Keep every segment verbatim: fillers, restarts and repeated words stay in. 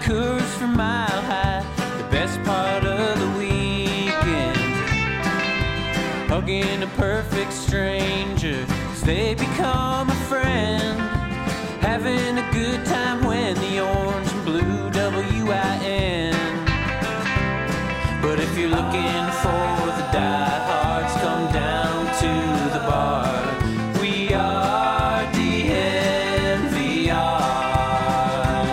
Coors for Mile High, the best part of the weekend. Hugging a perfect stranger as they become a friend. Having a good time when the orange and blue W I N. But if you're looking for the diehards, come down to the bar. We are D N V R.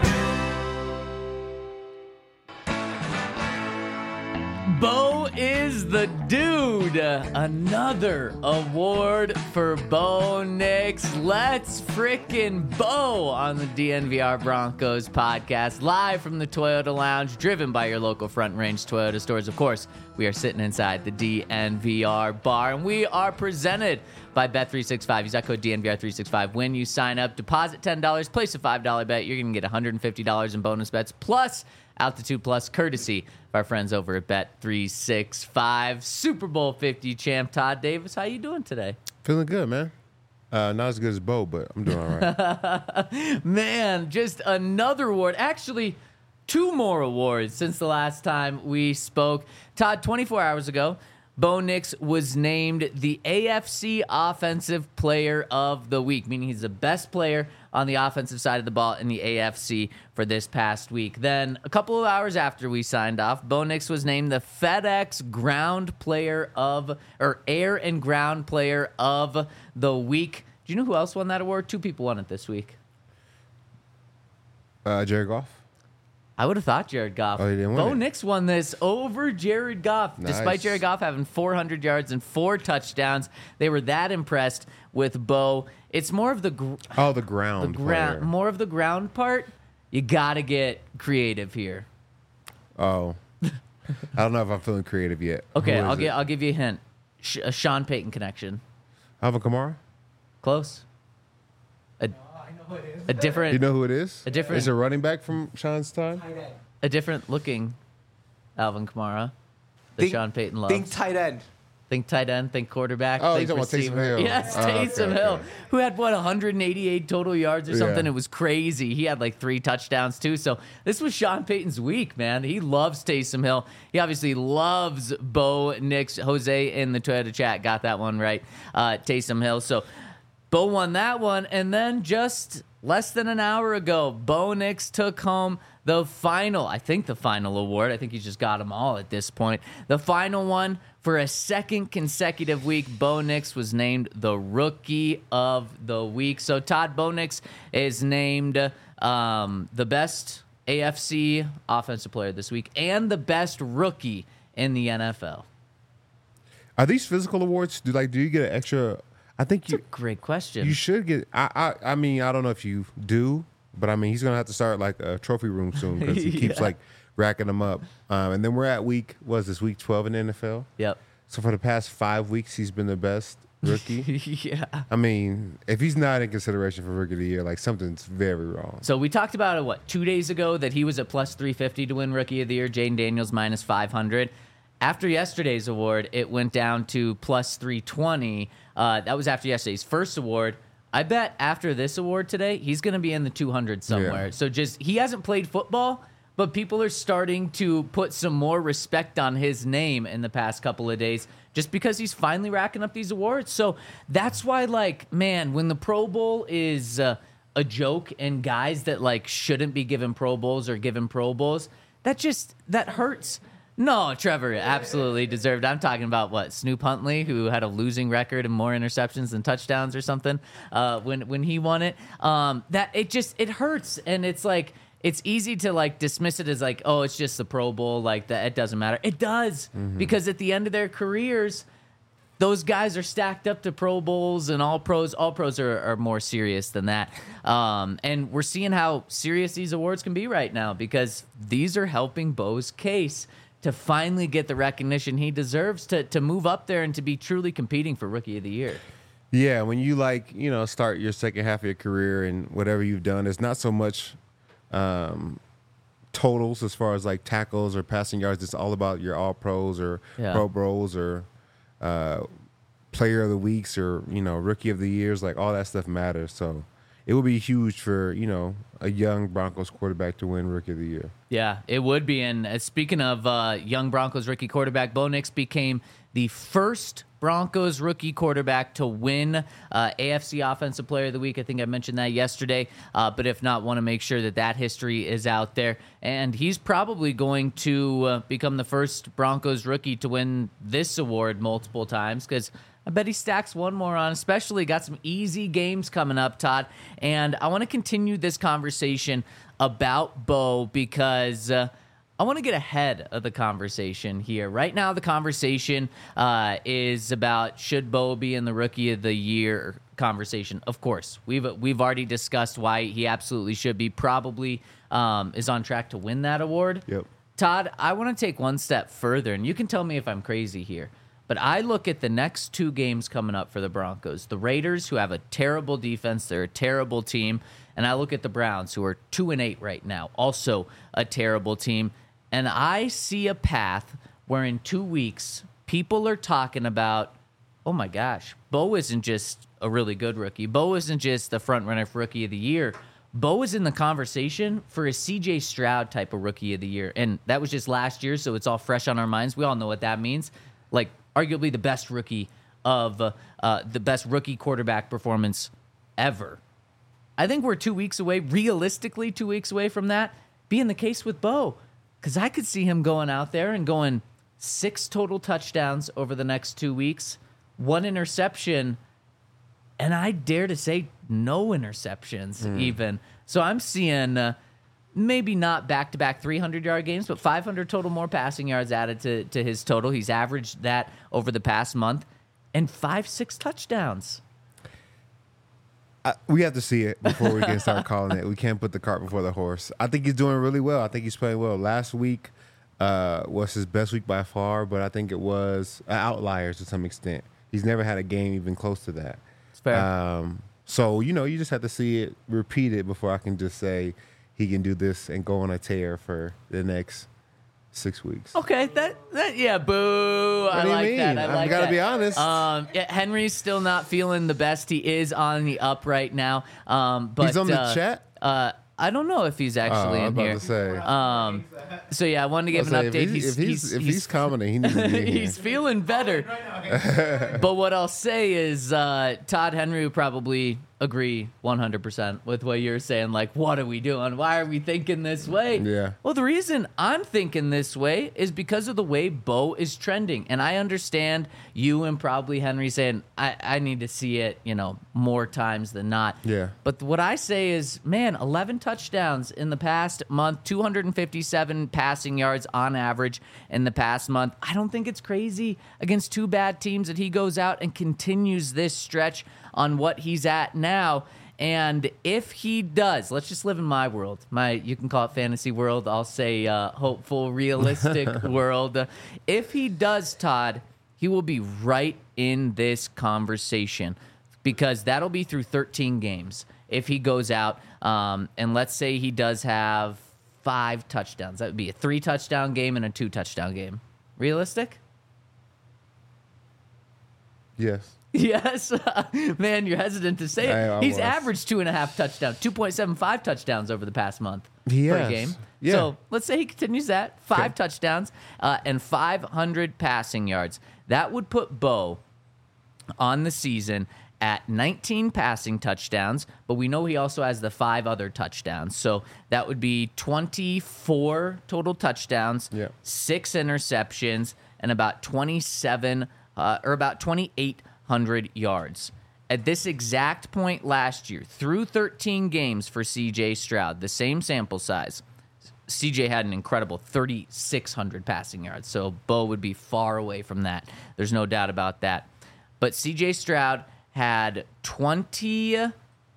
Bo is the dude. Another award for Bo Nix. Let's frickin' Bo on the D N V R Broncos podcast, live from the Toyota Lounge, driven by your local Front Range Toyota stores. Of course, we are sitting inside the D N V R bar, and we are presented by Bet three sixty-five. Use that code D N V R three sixty-five when you sign up. Deposit ten dollars, place a five dollar bet. You're going to get one hundred fifty dollars in bonus bets, plus Altitude Plus, courtesy of our friends over at Bet three sixty-five. Super Bowl fifty champ Todd Davis, how you doing today? Feeling good, man. Uh, not as good as Bo, but I'm doing all right. Man, just another award. Actually, two more awards since the last time we spoke. Todd, twenty-four hours ago, Bo Nix was named the A F C Offensive Player of the Week, meaning he's the best player on the offensive side of the ball in the A F C for this past week. Then, a couple of hours after we signed off, Bo Nix was named the FedEx Ground Player of, or Air and Ground Player of the Week. Do you know who else won that award? Two people won it this week. Uh, Jared Goff? I would have thought Jared Goff. Oh, he didn't win Bo it. Nix won this over Jared Goff, Nice. despite Jared Goff having four hundred yards and four touchdowns. They were that impressed with Bo. It's more of the gr- Oh, the ground the ground, player. more of the ground part. You got to get creative here. Oh. I don't know if I'm feeling creative yet. Okay, Who is I'll it? get I'll give you a hint. Sh- a Sean Payton connection. Alvin Kamara? Close. A, a different You know who it is? A different- Is it a running back from Sean's time? a different looking Alvin Kamara that Think- Sean Payton loves. Think tight end. Think tight end, think quarterback. Oh, think you're talking about Taysom receiver. Hill. Yes, Oh, okay, Taysom okay. Hill, who had, what, one hundred eighty-eight total yards or something. Yeah. It was crazy. He had like three touchdowns, too. So this was Sean Payton's week, man. He loves Taysom Hill. He obviously loves Bo Nix. Jose in the Toyota chat got that one right. Uh, Taysom Hill. So Bo won that one. And then just less than an hour ago, Bo Nix took home the final, I think the final award. I think he's just got them all at this point. The final one for a second consecutive week. Bo Nix was named the Rookie of the Week. So Todd, Bo Nix is named um, the best A F C offensive player this week and the best rookie in the N F L. Are these physical awards? Do like do you get an extra? I think you Great question. you should get. I, I I mean I don't know if you do, but I mean he's gonna have to start like a trophy room soon because he keeps Yeah. like racking them up. Um, and then we're at week what is this week twelve in the N F L? Yep. So for the past five weeks he's been the best rookie. Yeah. I mean, if he's not in consideration for rookie of the year, like something's very wrong. So we talked about it, what, two days ago, that he was at plus three fifty to win Rookie of the Year. Jaden Daniels minus five hundred. After yesterday's award, it went down to plus three twenty. Uh, that was after yesterday's first award. I bet after this award today, he's going to be in the two hundred somewhere. Yeah. So just, he hasn't played football, but people are starting to put some more respect on his name in the past couple of days just because he's finally racking up these awards. So that's why, like, man, when the Pro Bowl is uh, a joke and guys that, like, shouldn't be given Pro Bowls or given Pro Bowls, that just, that hurts. No, Trevor absolutely deserved. I'm talking about, what, Snoop Huntley, who had a losing record and more interceptions than touchdowns or something uh, when when he won it. Um, that it just, it hurts. And it's like, it's easy to like dismiss it as like, oh, it's just the Pro Bowl, like that, it doesn't matter. It does, because at the end of their careers, those guys are stacked up to Pro Bowls and all pros. All pros are, are more serious than that. Um, and we're seeing how serious these awards can be right now because these are helping Bo's case to finally get the recognition he deserves to to move up there and to be truly competing for Rookie of the Year. Yeah, when you like, you know, start your second half of your career and whatever you've done, it's not so much um, totals as far as like tackles or passing yards. It's all about your all pros or Yeah. pro bowls or uh, player of the weeks or, you know, rookie of the years. Like all that stuff matters. So it would be huge for, you know, a young Broncos quarterback to win Rookie of the Year. Yeah, it would be. And uh, speaking of uh, young Broncos rookie quarterback, Bo Nix became the first Broncos rookie quarterback to win uh, A F C Offensive Player of the Week. I think I mentioned that yesterday. Uh, but if not, want to make sure that that history is out there. And he's probably going to uh, become the first Broncos rookie to win this award multiple times, because I bet he stacks one more on, especially got some easy games coming up, Todd. And I want to continue this conversation about Bo because uh, I want to get ahead of the conversation here. Right now, the conversation uh, is about should Bo be in the Rookie of the Year conversation. Of course, we've we've already discussed why he absolutely should be. Probably um, is on track to win that award. Yep. Todd, I want to take one step further, and you can tell me if I'm crazy here. But I look at the next two games coming up for the Broncos. The Raiders, who have a terrible defense, they're a terrible team. And I look at the Browns, who are two and eight right now, also a terrible team. And I see a path where in two weeks, people are talking about, oh my gosh, Bo isn't just a really good rookie. Bo isn't just the front runner for Rookie of the Year. Bo is in the conversation for a C J Stroud type of Rookie of the Year. And that was just last year, so it's all fresh on our minds. We all know what that means. Like, arguably the best rookie of uh, uh, the best rookie quarterback performance ever. I think we're two weeks away, realistically two weeks away from that being the case with Bo, because I could see him going out there and going six total touchdowns over the next two weeks, one interception, and I dare to say no interceptions mm. even. So I'm seeing uh, maybe not back-to-back three hundred-yard games, but five hundred total more passing yards added to, to his total. He's averaged that over the past month, and five, six touchdowns. I, we have to see it before we can start calling it. We can't put the cart before the horse. I think he's doing really well. I think he's playing well. Last week uh, was his best week by far, but I think it was an outlier to some extent. He's never had a game even close to that. It's fair. Um, so, you know, you just have to see it repeated before I can just say he can do this and go on a tear for the next six weeks. Okay, that that yeah, boo. What I do you like mean? that. I I've like gotta that. be honest. Um, yeah, Henry's still not feeling the best. He is on the up right now. Um, but He's on the uh, chat? Uh, I don't know if he's Oh, actually I was in about here. to say. Um, so yeah, I wanted to give I an was like, update. If he's, He's if he's, he's, if he's, he's commenting, he needs to be in here. he's feeling better. But what I'll say is uh, Todd Henry would probably agree one hundred percent with what you're saying. Like, what are we doing? Why are we thinking this way? Yeah. Well, the reason I'm thinking this way is because of the way Bo is trending. And I understand you and probably Henry saying, I, I need to see it, you know, more times than not. Yeah. But what I say is, man, eleven touchdowns in the past month, two hundred fifty-seven passing yards on average in the past month. I don't think it's crazy against two bad teams that he goes out and continues this stretch on what he's at now. And if he does, let's just live in my world. My, you can call it fantasy world. I'll say uh, hopeful, realistic world. Uh, if he does, Todd, he will be right in this conversation because that'll be through thirteen games. If he goes out, um, and let's say he does have five touchdowns, that would be a three touchdown game and a two touchdown game. Realistic? Yes. Yes. Man, you're hesitant to say it. I- I He's was. averaged two and a half touchdowns, two point seven five touchdowns over the past month He per has. game. Yeah. So let's say he continues that, five Okay. touchdowns uh, and five hundred passing yards. That would put Bo on the season at nineteen passing touchdowns, but we know he also has the five other touchdowns. So that would be twenty-four total touchdowns, Yeah. six interceptions, and about twenty-seven uh, or about twenty-eight hundred yards. At this exact point last year, through thirteen games for C J Stroud, the same sample size, C J had an incredible thirty-six hundred passing yards. So Bo would be far away from that. There's no doubt about that. But C J Stroud had twenty-three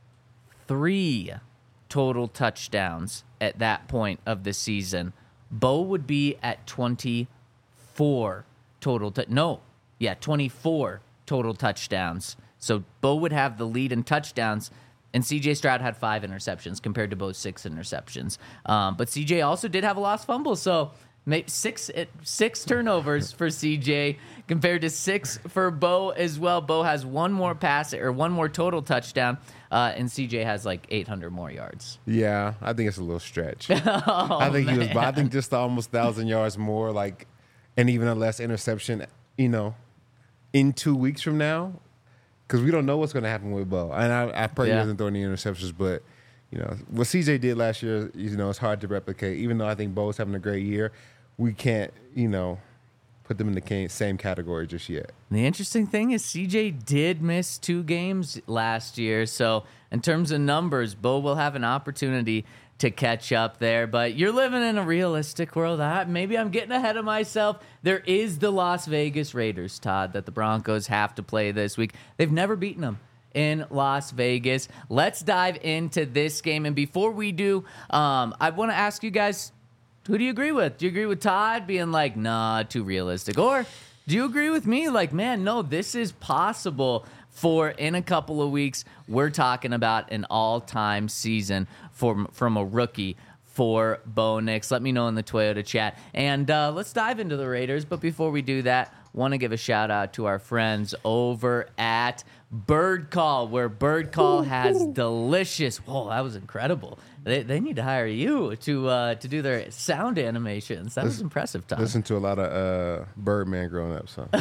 total touchdowns at that point of the season. Bo would be at twenty-four total. T- no, yeah, twenty-four total touchdowns. So Bo would have the lead in touchdowns, and C J Stroud had five interceptions compared to Bo's six interceptions. Um, but C J also did have a lost fumble, so Maybe six six turnovers for C J compared to six for Bo as well. Bo has one more pass or one more total touchdown, uh, and C J has like eight hundred more yards. Yeah, I think it's a little stretch. Oh, I think man. he was. I think just almost thousand yards more, like, and even a less interception. You know, in two weeks from now, because we don't know what's going to happen with Bo. And I, I pray Yeah. he doesn't throw any interceptions, but. You know, what C J did last year, you know, it's hard to replicate. Even though I think Bo's having a great year, we can't, you know, put them in the ca- same category just yet. The interesting thing is C J did miss two games last year. So in terms of numbers, Bo will have an opportunity to catch up there. But you're living in a realistic world. I, maybe I'm getting ahead of myself. There is the Las Vegas Raiders, Todd, that the Broncos have to play this week. They've never beaten them in Las Vegas. Let's dive into this game. And before we do, um, I want to ask you guys, who do you agree with? Do you agree with Todd being like, nah, too realistic? Or do you agree with me? Like, man, no, this is possible for in a couple of weeks. We're talking about an all-time season from, from a rookie for Bo Nix. Let me know in the Toyota chat. And uh, let's dive into the Raiders. But before we do that, want to give a shout out to our friends over at Bird Call, where Bird Call has delicious. Whoa, that was incredible. They, they need to hire you to uh, to do their sound animations. That was impressive, Tom. Listen to a lot of uh, Birdman growing up, so.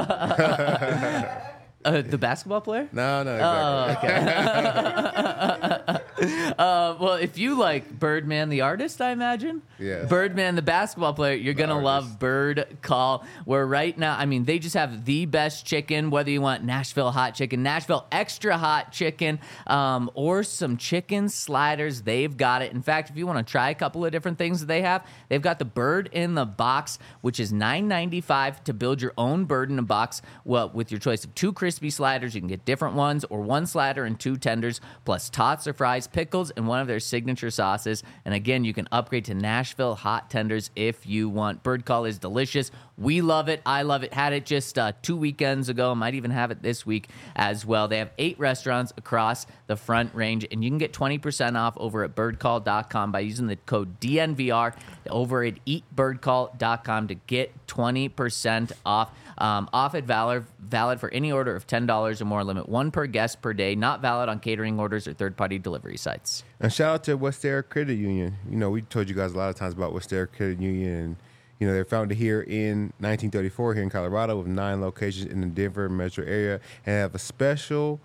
Uh, the basketball player? No, no, exactly. Oh, okay. uh, well, if you like Birdman the artist, I imagine. Yes. Birdman the basketball player, you're going to artist. love Bird Call, where right now, I mean, they just have the best chicken, whether you want Nashville hot chicken, Nashville extra hot chicken, um, or some chicken sliders. They've got it. In fact, if you want to try a couple of different things that they have, they've got the Bird in the Box, which is nine ninety-five to build your own bird in a box. Well, with your choice of two crispy sliders, you can get different ones, or one slider and two tenders, plus tots or fries, pickles, and one of their signature sauces. And again, you can upgrade to Nashville hot tenders if you want. Bird Call is delicious. We love it. I love it. Had it just uh, two weekends ago. Might even have it this week as well. They have eight restaurants across the Front Range, and you can get twenty percent off over at bird call dot com by using the code D N V R over at eat bird call dot com to get twenty percent off. Um, off at valid, valid for any order of ten dollars or more. Limit one per guest per day. Not valid on catering orders or third-party delivery sites. And shout out to Westera Credit Union. You know, we told you guys a lot of times about Westera Credit Union. And, you know, they're founded here in nineteen thirty-four here in Colorado with nine locations in the Denver metro area and have a special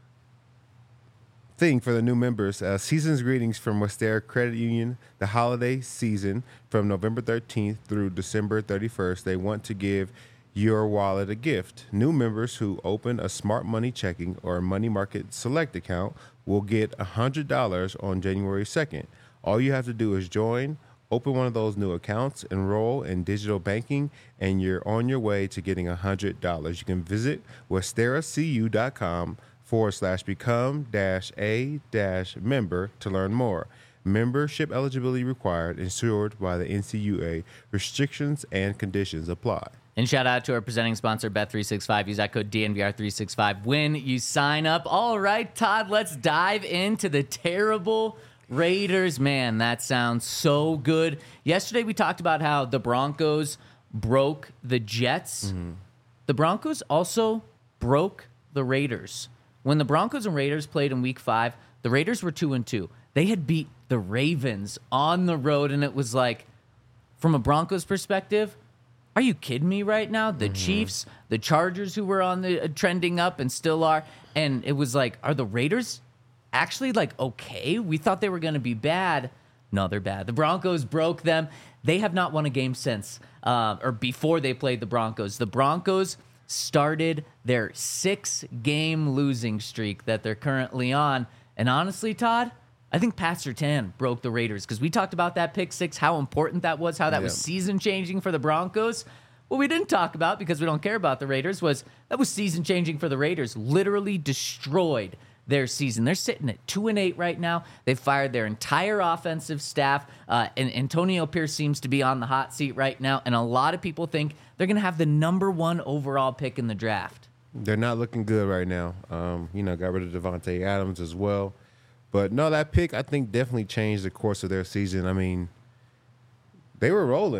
thing for the new members. Uh, season's greetings from Westera Credit Union. The holiday season from November thirteenth through December thirty-first. They want to give your wallet a gift. New members who open a Smart Money checking or Money Market Select account will get one hundred dollars on January second. All you have to do is join, open one of those new accounts, enroll in digital banking, and you're on your way to getting one hundred dollars. You can visit westeracu.com forward slash become dash a dash member to learn more. Membership eligibility required, insured by the N C U A. Restrictions and conditions apply. And shout out to our presenting sponsor, Bet three sixty-five. Use that code D N V R three sixty-five when you sign up. All right, Todd, let's dive into the terrible Raiders. Man, that sounds so good. Yesterday we talked about how the Broncos broke the Jets. Mm-hmm. The Broncos also broke the Raiders. When the Broncos and Raiders played in week five, the Raiders were two and two. They had beat the Ravens on the road, and it was like, from a Broncos perspective, are you kidding me right now? The mm-hmm. Chiefs, the Chargers, who were on the uh, trending up and still are, and it was like, are the Raiders actually like okay? We thought they were going to be bad. No, they're bad. The Broncos broke them. They have not won a game since, uh, or before they played the Broncos. The Broncos started their six-game losing streak that they're currently on, and honestly, Todd, I think Pat Surtain broke the Raiders because we talked about that pick six, how important that was, how that yeah. was season-changing for the Broncos. What we didn't talk about, because we don't care about the Raiders, was that was season-changing for the Raiders. Literally destroyed their season. They're sitting at two and eight right now. They've fired their entire offensive staff, uh, and Antonio Pierce seems to be on the hot seat right now, and a lot of people think they're going to have the number one overall pick in the draft. They're not looking good right now. Um, you know, got rid of Devontae Adams as well. But no, that pick, I think, definitely changed the course of their season. I mean, they were rolling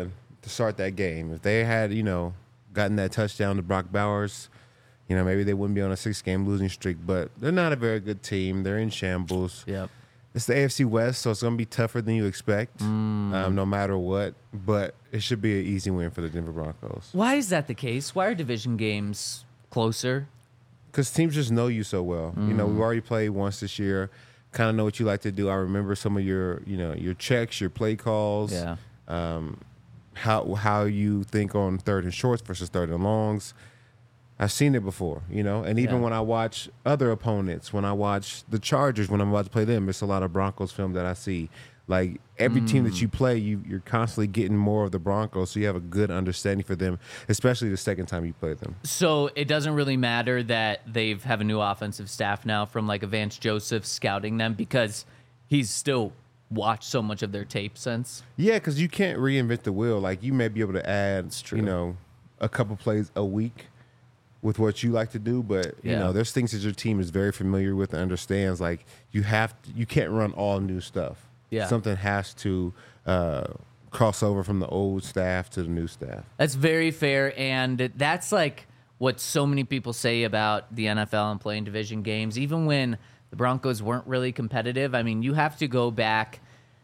to start that game. If they had, you know, gotten that touchdown to Brock Bowers, you know, maybe they wouldn't be on a six-game losing streak. But they're not a very good team. They're in shambles. Yep. It's the A F C West, so it's going to be tougher than you expect, Mm. um, no matter what. But it should be an easy win for the Denver Broncos. Why is that the case? Why are division games closer? Because teams just know you so well. You know, we've already played once this year. Kind of know what you like to do. I remember some of your, you know, your checks, your play calls. Yeah. Um, how how you think on third and shorts versus third and longs. I've seen it before, you know. And even Yeah. when I watch other opponents, when I watch the Chargers, when I'm about to play them, it's a lot of Broncos film that I see. Like every team that you play, you you're constantly getting more of the Broncos, so you have a good understanding for them, especially the second time you play them. So it doesn't really matter that they've have a new offensive staff now from like Vance Joseph scouting them because he's still watched so much of their tape since. Yeah, because you can't reinvent the wheel. Like you may be able to add, true. you know, a couple plays a week with what you like to do, but you Yeah. know, there's things that your team is very familiar with and understands. Like you have, to, you can't run all new stuff. Yeah. Something has to uh, cross over from the old staff to the new staff. That's very fair, and that's like what so many people say about the N F L and playing division games. Even when the Broncos weren't really competitive, I mean, you have to go back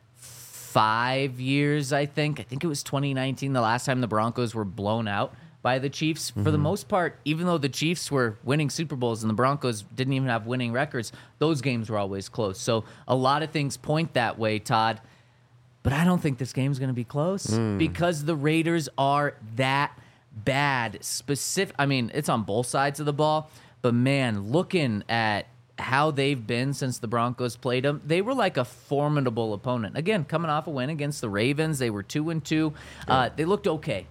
five years, I think. I think it was twenty nineteen, the last time the Broncos were blown out by the Chiefs. For the most part, even though the Chiefs were winning Super Bowls and the Broncos didn't even have winning records, those games were always close. So a lot of things point that way, Todd. But I don't think this game's going to be close because the Raiders are that bad. Specific, I mean, it's on both sides of the ball. But, man, looking at how they've been since the Broncos played them, they were like a formidable opponent. Again, coming off a win against the Ravens, they were two and two. Uh, they looked okay.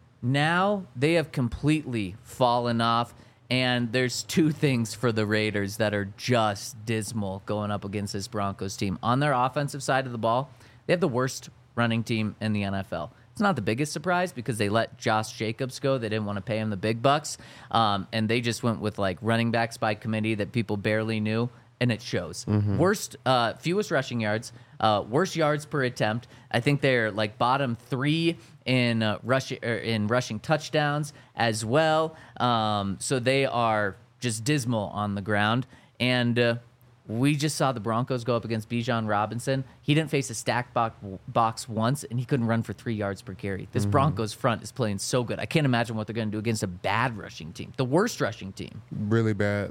Now they have completely fallen off, and there's two things for the Raiders that are just dismal going up against this Broncos team. On their offensive side of the ball, they have the worst running team in the N F L. It's not the biggest surprise because they let Josh Jacobs go. They didn't want to pay him the big bucks, um, and they just went with like running backs by committee that people barely knew, and it shows. Worst, uh, fewest rushing yards, uh, worst yards per attempt. I think they're like bottom three in uh, rushing er, in rushing touchdowns as well. Um, so they are just dismal on the ground. And uh, we just saw the Broncos go up against Bijan Robinson. He didn't face a stack box, box once, and he couldn't run for three yards per carry. This Broncos front is playing so good. I can't imagine what they're going to do against a bad rushing team, the worst rushing team. Really bad.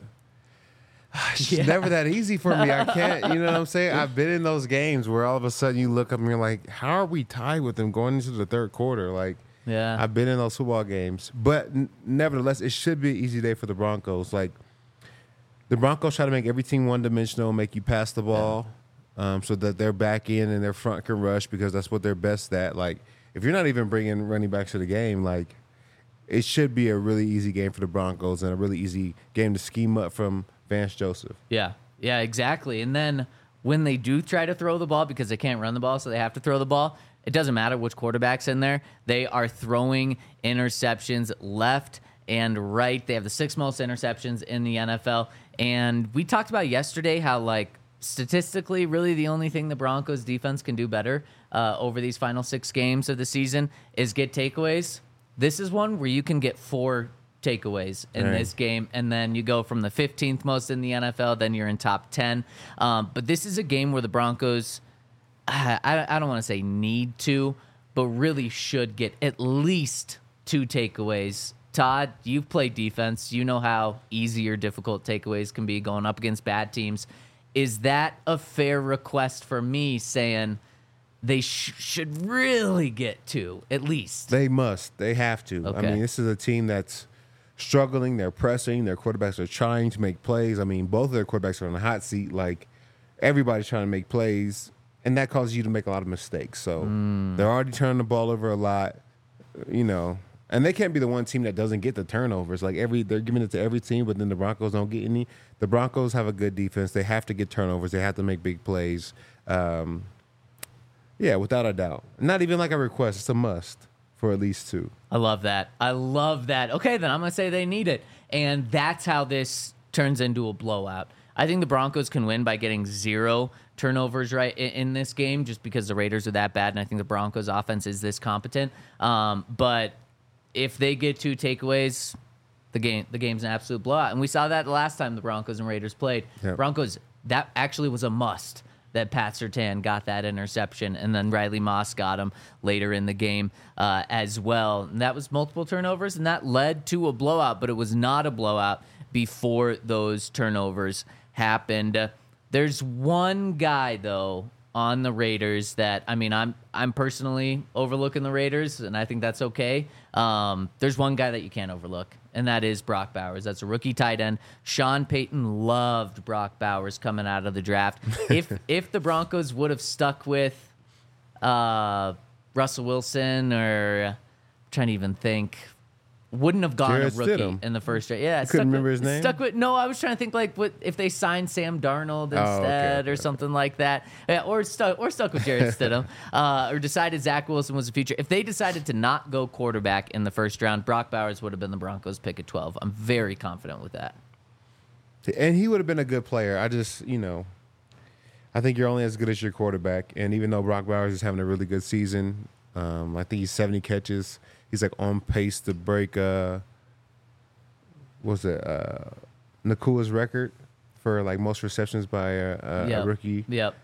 It's never that easy for me. I can't, you know what I'm saying? I've been in those games where all of a sudden you look up and you're like, how are we tied with them going into the third quarter? Like, Yeah. I've been in those football games. But n- nevertheless, it should be an easy day for the Broncos. Like, the Broncos try to make every team one-dimensional, make you pass the ball um, so that their back end and their front can rush because that's what they're best at. Like, if you're not even bringing running backs to the game, like, it should be a really easy game for the Broncos and a really easy game to scheme up from Vance Joseph. Yeah, yeah, exactly. And then when they do try to throw the ball, because they can't run the ball, so they have to throw the ball, it doesn't matter which quarterback's in there. They are throwing interceptions left and right. They have the sixth most interceptions in the N F L. And we talked about yesterday how, like, statistically, really the only thing the Broncos defense can do better uh, over these final six games of the season is get takeaways. This is one where you can get four takeaways in Right. this game, and then you go from the fifteenth most in the N F L, then you're in top ten. Um, but this is a game where the Broncos, I, I don't want to say need to, but really should get at least two takeaways. Todd, you've played defense. You know how easy or difficult takeaways can be going up against bad teams. Is that a fair request for me saying they sh- should really get two, at least? They must. They have to. I Okay. mean, this is a team that's struggling. They're pressing. Their quarterbacks are trying to make plays. I mean, both of their quarterbacks are on the hot seat. Like, everybody's trying to make plays, and that causes you to make a lot of mistakes. So they're already turning the ball over a lot, you know. And they can't be the one team that doesn't get the turnovers. Like, every they're giving it to every team, but then the Broncos don't get any. The Broncos have a good defense. They have to get turnovers. They have to make big plays. Um, yeah, without a doubt. Not even like a request. It's a must for at least two. I love that. I love that. Okay, then I'm going to say they need it. And that's how this turns into a blowout. I think the Broncos can win by getting zero turnovers right in, in this game, just because the Raiders are that bad, and I think the Broncos offense is this competent. Um, but if they get two takeaways, the game the game's an absolute blowout. And we saw that the last time the Broncos and Raiders played. Yep. Broncos, that actually was a must that Pat Surtain got that interception, and then Riley Moss got him later in the game uh, as well. And that was multiple turnovers, and that led to a blowout, but it was not a blowout before those turnovers happened. Uh, there's one guy, though, on the Raiders that, I mean, I'm I'm personally overlooking the Raiders, and I think that's okay. Um, there's one guy that you can't overlook, and that is Brock Bowers. That's a rookie tight end. Sean Payton loved Brock Bowers coming out of the draft. If if the Broncos would have stuck with uh, Russell Wilson, or I'm trying to even think, wouldn't have gone Jarrett a rookie Stidham. in the first draft. Yeah, You couldn't stuck remember with, his name? Stuck with no. I was trying to think like what if they signed Sam Darnold Oh, okay, instead, okay, or something like that, yeah, or stuck or stuck with Jarrett Stidham, uh, or decided Zach Wilson was the future. If they decided to not go quarterback in the first round, Brock Bowers would have been the Broncos' pick at twelve. I'm very confident with that. And he would have been a good player. I just, you know, I think you're only as good as your quarterback. And even though Brock Bowers is having a really good season, um, I think he's seventy catches. He's like on pace to break, uh, what's it, uh, Nakua's record for like most receptions by a, a, Yep. a rookie. Yep.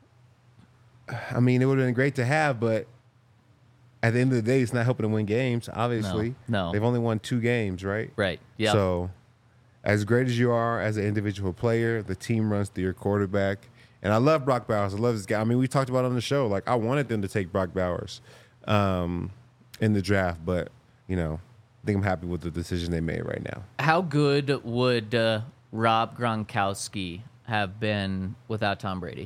I mean, it would have been great to have, but at the end of the day, it's not helping them win games, obviously. No, no. They've only won two games, right? Right. Yeah. So, as great as you are as an individual player, the team runs through your quarterback. And I love Brock Bowers. I love this guy. I mean, we talked about it on the show. Like, I wanted them to take Brock Bowers um, in the draft, but, you know, I think I'm happy with the decision they made right now. How good would uh, Rob Gronkowski have been without Tom Brady?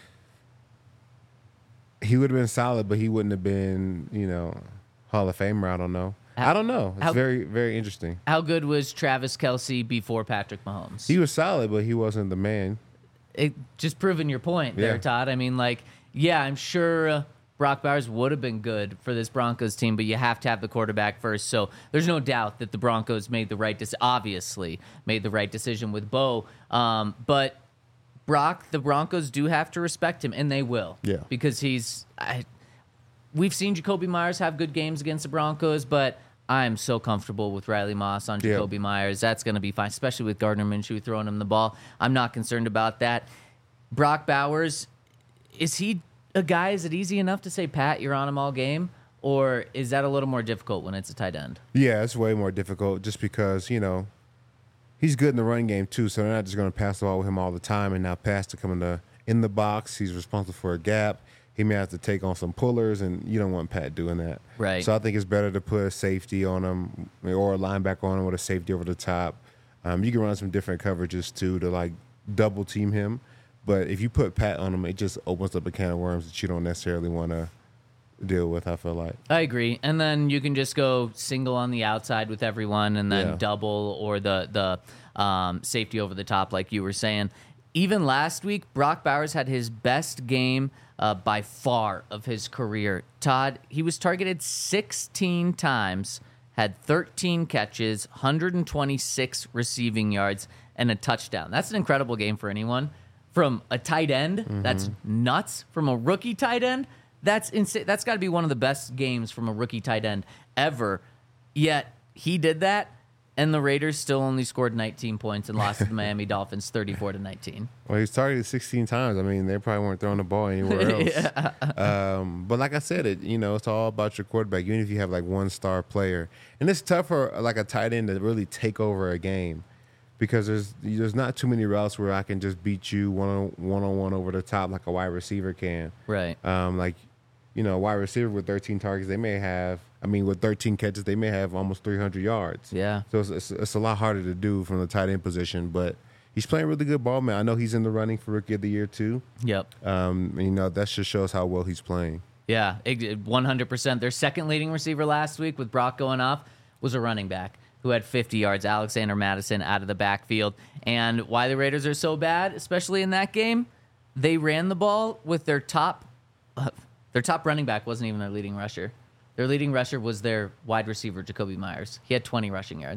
He would have been solid, but he wouldn't have been, you know, Hall of Famer. I don't know. How- I don't know. It's how- very, very interesting. How good was Travis Kelce before Patrick Mahomes? He was solid, but he wasn't the man. It, just proving your point there, Yeah. Todd. I mean, like, yeah, I'm sure uh, Brock Bowers would have been good for this Broncos team, but you have to have the quarterback first. So there's no doubt that the Broncos made the right decision, obviously made the right decision with Bo. Um, but Brock, the Broncos do have to respect him, and they will. Yeah. Because he's... I, we've seen Jacoby Myers have good games against the Broncos, but I'm so comfortable with Riley Moss on Yeah. Jacoby Myers. That's going to be fine, especially with Gardner Minshew throwing him the ball. I'm not concerned about that. Brock Bowers, is he a guy, is it easy enough to say, Pat, you're on him all game? Or is that a little more difficult when it's a tight end? Yeah, it's way more difficult just because, you know, he's good in the run game too, so they're not just going to pass the ball with him all the time and now pass to come in the, in the box. He's responsible for a gap. He may have to take on some pullers, and you don't want Pat doing that. Right. So I think it's better to put a safety on him or a linebacker on him with a safety over the top. Um, you can run some different coverages too to like double team him. But if you put Pat on him, it just opens up a can of worms that you don't necessarily want to deal with, I feel like. I agree. And then you can just go single on the outside with everyone and then Yeah. double or the, the um, safety over the top, like you were saying. Even last week, Brock Bowers had his best game uh, by far of his career. Todd, he was targeted sixteen times, had thirteen catches, one hundred twenty-six receiving yards, and a touchdown. That's an incredible game for anyone. From a tight end, Mm-hmm. that's nuts. From a rookie tight end, that's insane. That's got to be one of the best games from a rookie tight end ever. Yet he did that, and the Raiders still only scored nineteen points and lost to the Miami Dolphins thirty-four to nineteen. Well, he's targeted sixteen times. I mean, they probably weren't throwing the ball anywhere else. um, but like I said, it you know, it's all about your quarterback. Even if you have like one star player, and it's tough for like a tight end to really take over a game because there's there's not too many routes where I can just beat you one on one on one over the top like a wide receiver can. Right. Um, like you know, a wide receiver with thirteen targets, they may have. I mean, with thirteen catches, they may have almost three hundred yards. Yeah. So it's, it's, it's a lot harder to do from the tight end position, but he's playing really good ball, man. I know he's in the running for Rookie of the Year, too. Yep. Um, and, you know, that just shows how well he's playing. Yeah, ex- one hundred percent. Their second leading receiver last week with Brock going off was a running back who had fifty yards, Alexander Madison, out of the backfield. And why the Raiders are so bad, especially in that game, they ran the ball with their top uh, their top running back wasn't even their leading rusher. Their leading rusher was their wide receiver, Jacoby Myers. He had twenty rushing yards.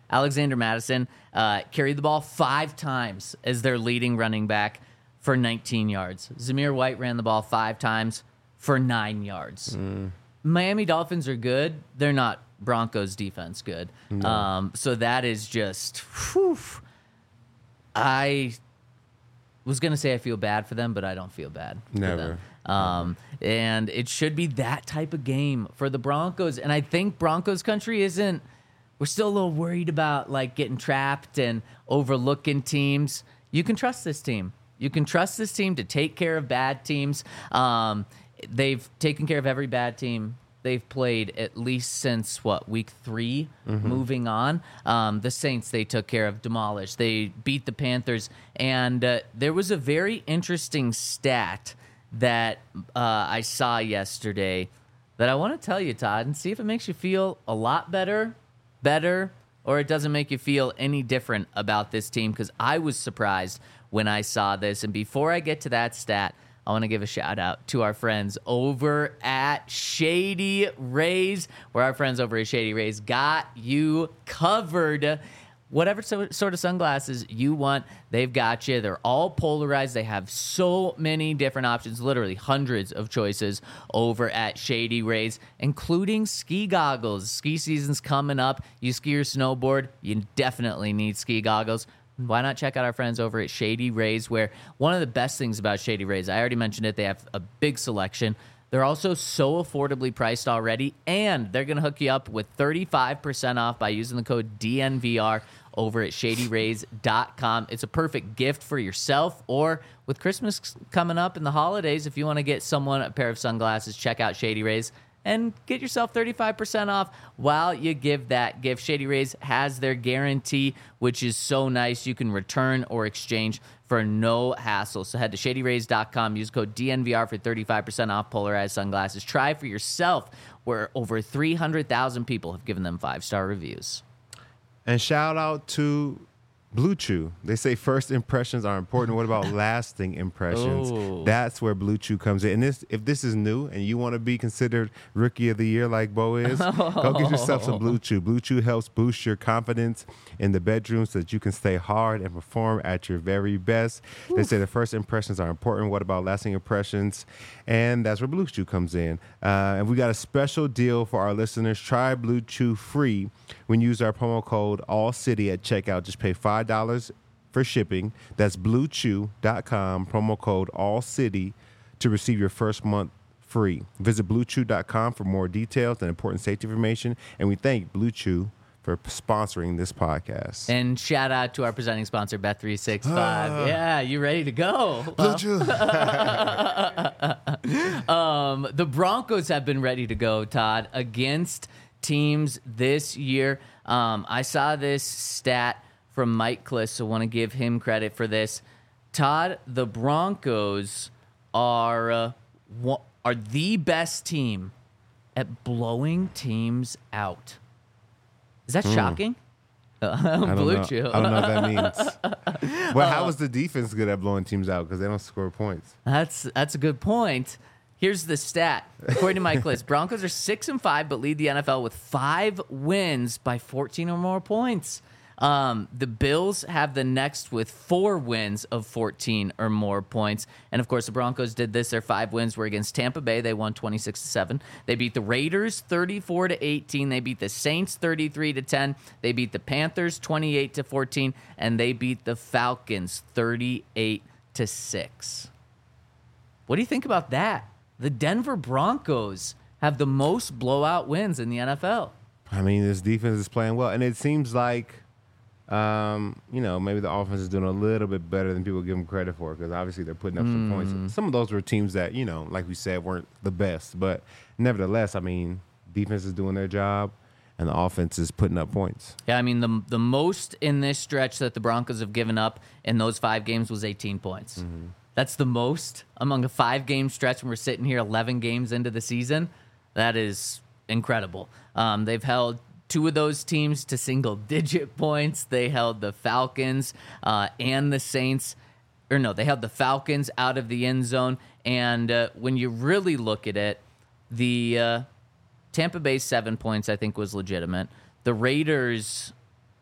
Alexander Madison uh, carried the ball five times as their leading running back for nineteen yards. Zamir White ran the ball five times for nine yards. Mm. Miami Dolphins are good. They're not Broncos defense good. No. Um, so that is just, whew, I was going to say I feel bad for them, but I don't feel bad Never. for them. Um, and it should be that type of game for the Broncos. And I think Broncos country isn't, we're still a little worried about like getting trapped and overlooking teams. You can trust this team. You can trust this team to take care of bad teams. Um, they've taken care of every bad team they've played at least since, what, week three, mm-hmm. moving on. Um, the Saints they took care of, demolished. They beat the Panthers. And uh, there was a very interesting stat that uh, I saw yesterday that I want to tell you, Todd, and see if it makes you feel a lot better, better, or it doesn't make you feel any different about this team, because I was surprised when I saw this. And before I get to that stat, I want to give a shout out to our friends over at Shady Rays, where our friends over at Shady Rays got you covered. Whatever so, sort of sunglasses you want, they've got you. They're all polarized. They have so many different options, literally hundreds of choices over at Shady Rays, including ski goggles. Ski season's coming up. You ski or snowboard, you definitely need ski goggles. Why not check out our friends over at Shady Rays, where one of the best things about Shady Rays, I already mentioned it, they have a big selection. They're also so affordably priced already, and they're going to hook you up with thirty-five percent off by using the code D N V R over at shady rays dot com. It's a perfect gift for yourself, or with Christmas coming up and the holidays, if you want to get someone a pair of sunglasses, check out Shady Rays and get yourself thirty-five percent off while you give that gift. Shady Rays has their guarantee, which is so nice. You can return or exchange for no hassle. So head to shady rays dot com, use code D N V R for thirty-five percent off polarized sunglasses. Try for yourself, where over three hundred thousand people have given them five-star reviews. And shout out to Blue Chew. They say first impressions are important. What about lasting impressions? Ooh. That's where Blue Chew comes in. And this, if this is new and you want to be considered Rookie of the Year like Bo is, go get yourself some Blue Chew. Blue Chew helps boost your confidence in the bedroom so that you can stay hard and perform at your very best. Oof. They say the first impressions are important. What about lasting impressions? And that's where Blue Chew comes in. Uh, and we got a special deal for our listeners. Try Blue Chew free when you use our promo code ALLCITY at checkout. Just pay five dollars for shipping. That's blue chew dot com, promo code ALLCITY to receive your first month free. Visit blue chew dot com for more details and important safety information. And we thank Blue Chew for sponsoring this podcast. And shout out to our presenting sponsor, Bet three sixty-five. Uh, yeah, you ready to go? Blue Chew. um, the Broncos have been ready to go, Todd, against teams this year. Um, I saw this stat from Mike Kliss, so I want to give him credit for this. Todd, the Broncos are uh, wa- are the best team at blowing teams out. Is that mm. shocking? Uh, Blue know. Chew. I don't know what that means. Well, how is the defense good at blowing teams out? Because they don't score points. That's that's a good point. Here's the stat. According to Mike Kliss, Broncos are six and five, but lead the N F L with five wins by fourteen or more points. Um, the Bills have the next with four wins of fourteen or more points. And, of course, the Broncos did this. Their five wins were against Tampa Bay. They won twenty-six to seven. They beat the Raiders thirty-four to eighteen. They beat the Saints thirty-three to ten. They beat the Panthers twenty-eight to fourteen. And they beat the Falcons thirty-eight to six. What do you think about that? The Denver Broncos have the most blowout wins in the N F L. I mean, this defense is playing well. And it seems like, Um, you know, maybe the offense is doing a little bit better than people give them credit for, because obviously they're putting up mm. some points. Some of those were teams that, you know, like we said, weren't the best. But nevertheless, I mean, defense is doing their job, and the offense is putting up points. Yeah, I mean, the the most in this stretch that the Broncos have given up in those five games was eighteen points. Mm-hmm. That's the most among a five-game stretch when we're sitting here eleven games into the season. That is incredible. Um, they've held two of those teams to single-digit points. They held the Falcons uh, and the Saints. Or no, they held the Falcons out of the end zone. And uh, when you really look at it, the uh, Tampa Bay seven points, I think, was legitimate. The Raiders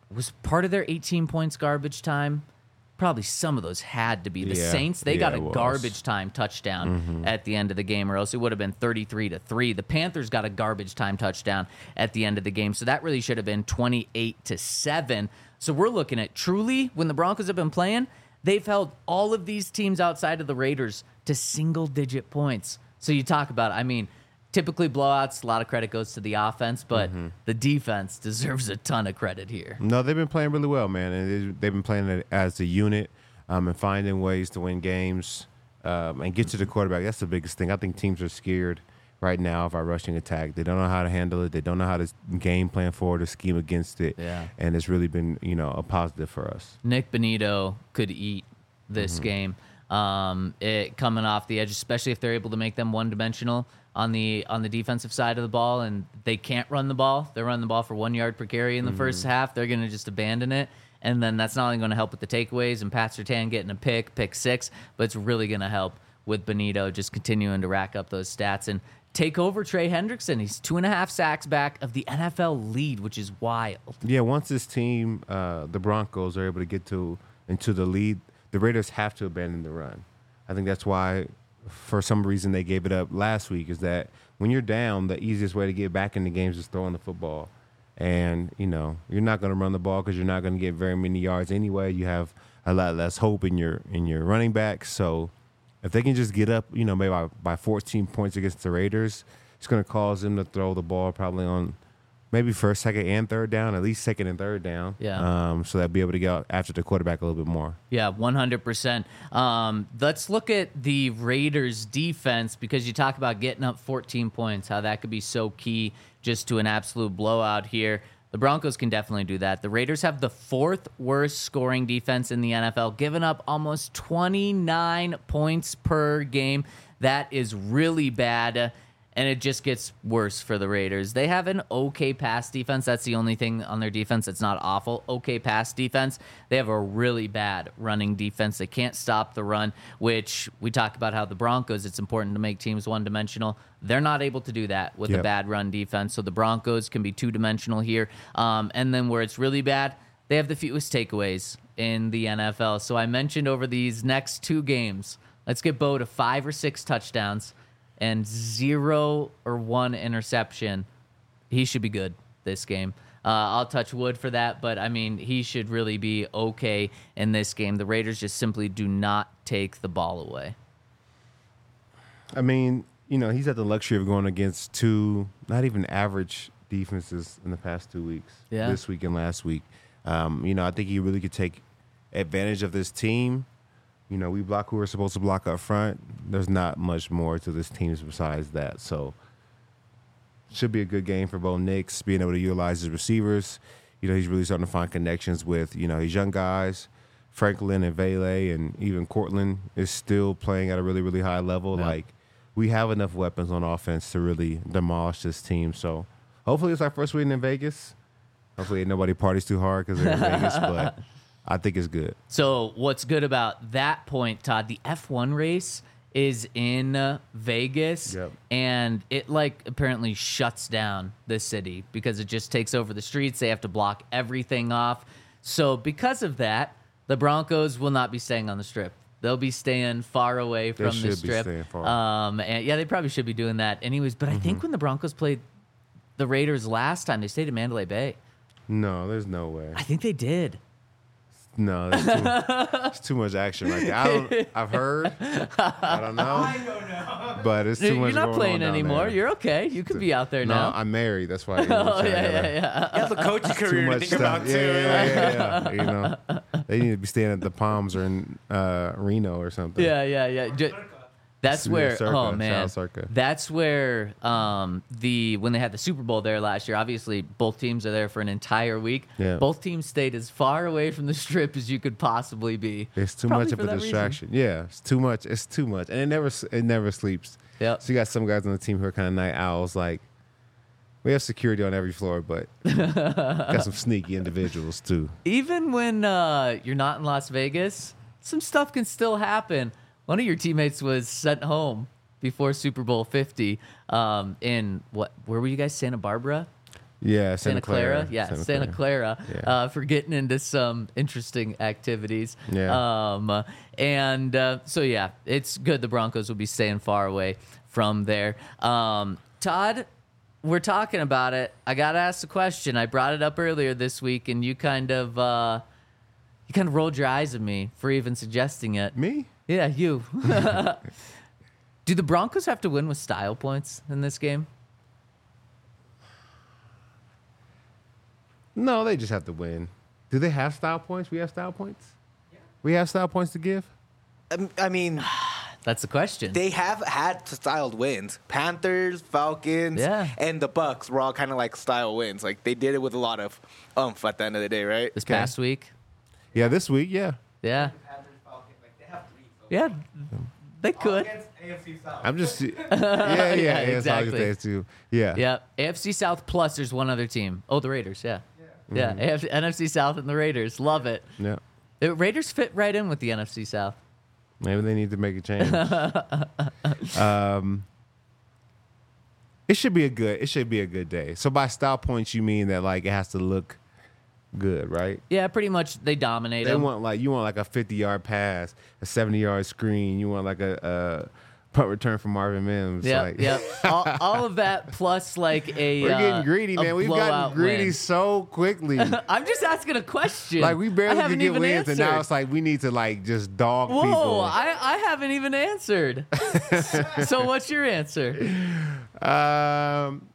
Was part of their eighteen points garbage time? Probably some of those had to be. The Yeah, Saints, they yeah, got a it was. garbage time touchdown Mm-hmm. at the end of the game, or else it would have been thirty-three to three. The Panthers got a garbage time touchdown at the end of the game, so that really should have been twenty-eight to seven. So we're looking at truly, when the Broncos have been playing, they've held all of these teams outside of the Raiders to single-digit points. So you talk about, I mean, typically blowouts, a lot of credit goes to the offense, but Mm-hmm. the defense deserves a ton of credit here. No, they've been playing really well, man, and they- they've been playing it as a unit um, and finding ways to win games um, and get to the quarterback. That's the biggest thing. I think teams are scared right now of our rushing attack. They don't know how to handle it. They don't know how to game plan for it or scheme against it. Yeah. And it's really been, you know, a positive for us. Nick Bonito could eat this Mm-hmm. game. Um, it coming off the edge, especially if they're able to make them one dimensional on the on the defensive side of the ball, and they can't run the ball. They're running the ball for one yard per carry in the first Mm-hmm. half. They're going to just abandon it, and then that's not only going to help with the takeaways and Pat Surtain getting a pick, pick six, but it's really going to help with Bonito just continuing to rack up those stats and take over Trey Hendrickson. He's two and a half sacks back of the N F L lead, which is wild. Yeah, once this team, uh, the Broncos, are able to get to into the lead, the Raiders have to abandon the run. I think that's why, for some reason, they gave it up last week, is that when you're down, the easiest way to get back in the games is throwing the football. And, you know, you're not going to run the ball because you're not going to get very many yards anyway. You have a lot less hope in your in your running backs. So if they can just get up, you know, maybe by, by fourteen points against the Raiders, it's going to cause them to throw the ball probably on maybe first, second, and third down, at least second and third down. Yeah. Um, so they'll be able to get after the quarterback a little bit more. Yeah, one hundred percent. Um, let's look at the Raiders' defense, because you talk about getting up fourteen points, how that could be so key just to an absolute blowout here. The Broncos can definitely do that. The Raiders have the fourth worst scoring defense in the N F L, giving up almost twenty-nine points per game. That is really bad. And it just gets worse for the Raiders. They have an okay pass defense. That's the only thing on their defense that's not awful. Okay pass defense. They have a really bad running defense. They can't stop the run, which we talk about how the Broncos, it's important to make teams one-dimensional. They're not able to do that with a Yep. bad run defense. So the Broncos can be two-dimensional here. Um, and then where it's really bad, they have the fewest takeaways in the N F L. So I mentioned over these next two games, let's get Bo to five or six touchdowns and zero or one interception. He should be good this game. Uh, I'll touch wood for that, but I mean, he should really be okay in this game. The Raiders just simply do not take the ball away. I mean, you know, he's had the luxury of going against two not even average defenses in the past two weeks. Yeah. This week and last week. Um, you know, I think he really could take advantage of this team. You know, we block who we're supposed to block up front. There's not much more to this team besides that. So, should be a good game for Bo Nix, being able to utilize his receivers. You know, he's really starting to find connections with, you know, these young guys. Franklin and Vele and even Cortland is still playing at a really, really high level. Yeah. Like, we have enough weapons on offense to really demolish this team. So, hopefully it's our first win in Vegas. Hopefully nobody parties too hard because they're in Vegas, but I think it's good. So what's good about that point, Todd, the F one race is in uh, Vegas, Yep. and it like apparently shuts down the city because it just takes over the streets. They have to block everything off. So because of that, the Broncos will not be staying on the strip. They'll be staying far away They from should the be strip. staying far. Um, and yeah, they probably should be doing that anyways. But I think when the Broncos played the Raiders last time, they stayed in Mandalay Bay. No, there's no way. I think they did. No, there's too, there's too much action right there. I don't, I've heard. I don't know. I don't know. But it's too You're much not going playing on down anymore. there. You're okay. You could be out there No, now. I'm married. That's why. You know what Oh I'm saying? yeah, I gotta- yeah, yeah. You have the coaching Too career to much think stuff. about Yeah, too. yeah, yeah, yeah. You know, they need to be staying at the Palms or in uh, Reno or something. Yeah, yeah, yeah. Ju- That's Yeah, where, Circa. oh Shout man, out Circa. that's where um, the when they had the Super Bowl there last year. Obviously, both teams are there for an entire week. Yeah. Both teams stayed as far away from the strip as you could possibly be. It's too Probably much of for a that reason. distraction. Yeah, it's too much. It's too much, and it never it never sleeps. Yep. So you got some guys on the team who are kind of night owls. Like, we have security on every floor, but got some sneaky individuals too. Even when uh, you're not in Las Vegas, some stuff can still happen. One of your teammates was sent home before Super Bowl fifty. Um, in what? Where were you guys? Santa Barbara. Yeah, Santa, Santa Clara, Clara. yeah, Santa Santa Clara, Yeah. uh, for getting into some interesting activities. Yeah. Um, and uh, so yeah, it's good. The Broncos will be staying far away from there. Um, Todd, we're talking about it. I gotta ask the question. I brought it up earlier this week, and you kind of uh, you kind of rolled your eyes at me for even suggesting it. Me? Yeah, you. Do the Broncos have to win with style points in this game? No, they just have to win. Do they have style points? We have style points? Yeah. We have style points to give? Um, I mean, That's the question. they have had styled wins. Panthers, Falcons, Yeah. and the Bucks were all kind of like style wins. Like they did it with a lot of umph at the end of the day, right? this past week. Yeah, this week, yeah. Yeah. Yeah, they could. I'm just yeah, yeah, yeah, exactly. That's all I was gonna say too. Yeah. Yeah, A F C South plus there's one other team. Oh, the Raiders, yeah. Yeah, A F C N F C South and the Raiders. Love it. Yeah. The Raiders fit right in with the N F C South. Maybe they need to make a change. um, it should be a good. It should be a good day. So by style points, you mean that like it has to look good, right? Yeah, pretty much they dominate They them. want like you want like a fifty yard pass, a seventy yard screen. You want like a, a punt return from Marvin Mims. Yeah, like, yeah. all, all of that plus like a. We're uh, getting greedy, a man. We've blowout gotten greedy win. so quickly. I'm just asking a question. Like we I barely haven't could get even wins, and now answered. it's like we need to like just dog Whoa, people. I, I haven't even answered. So what's your answer? Um,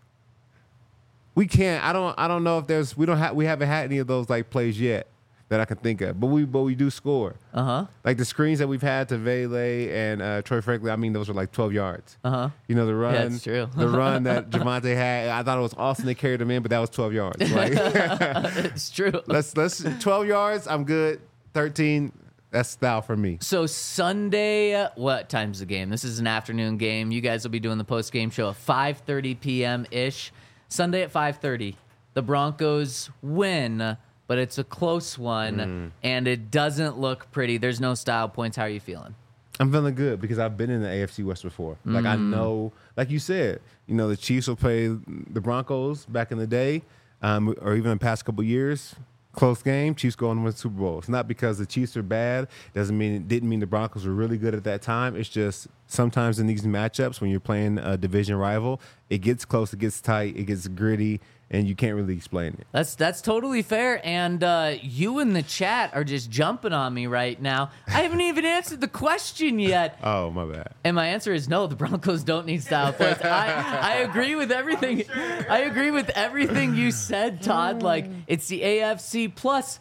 we can't. I don't. I don't know if there's. We don't have. We haven't had any of those like plays yet that I can think of. But we. But we do score. Uh huh. Like the screens that we've had to Vele and uh, Troy Franklin. I mean, those were like twelve yards. Uh huh. You know the run. Yeah, it's true. The run that Javonte had. I thought it was Austin that carried him in, but that was twelve yards. Like It's true. let's let's twelve yards. I'm good. Thirteen. That's style for me. So Sunday, uh, what time's the game? This is an afternoon game. You guys will be doing the post game show at five thirty p.m. ish. Sunday at five thirty. The Broncos win, but it's a close one, Mm. and it doesn't look pretty. There's no style points. How are you feeling? I'm feeling good because I've been in the A F C West before. Like I know, like you said, you know the Chiefs will play the Broncos back in the day, um, or even the past couple years. Close game, Chiefs go and win the Super Bowl. It's not because the Chiefs are bad. Doesn't mean it didn't mean the Broncos were really good at that time. It's just sometimes in these matchups when you're playing a division rival, it gets close, it gets tight, it gets gritty, and you can't really explain it. That's that's totally fair. And uh, you in the chat are just jumping on me right now. I haven't even answered the question yet. Oh, my bad. And my answer is no. The Broncos don't need style points. I, I agree with everything. I agree with everything you said, Todd. Like it's the A F C plus.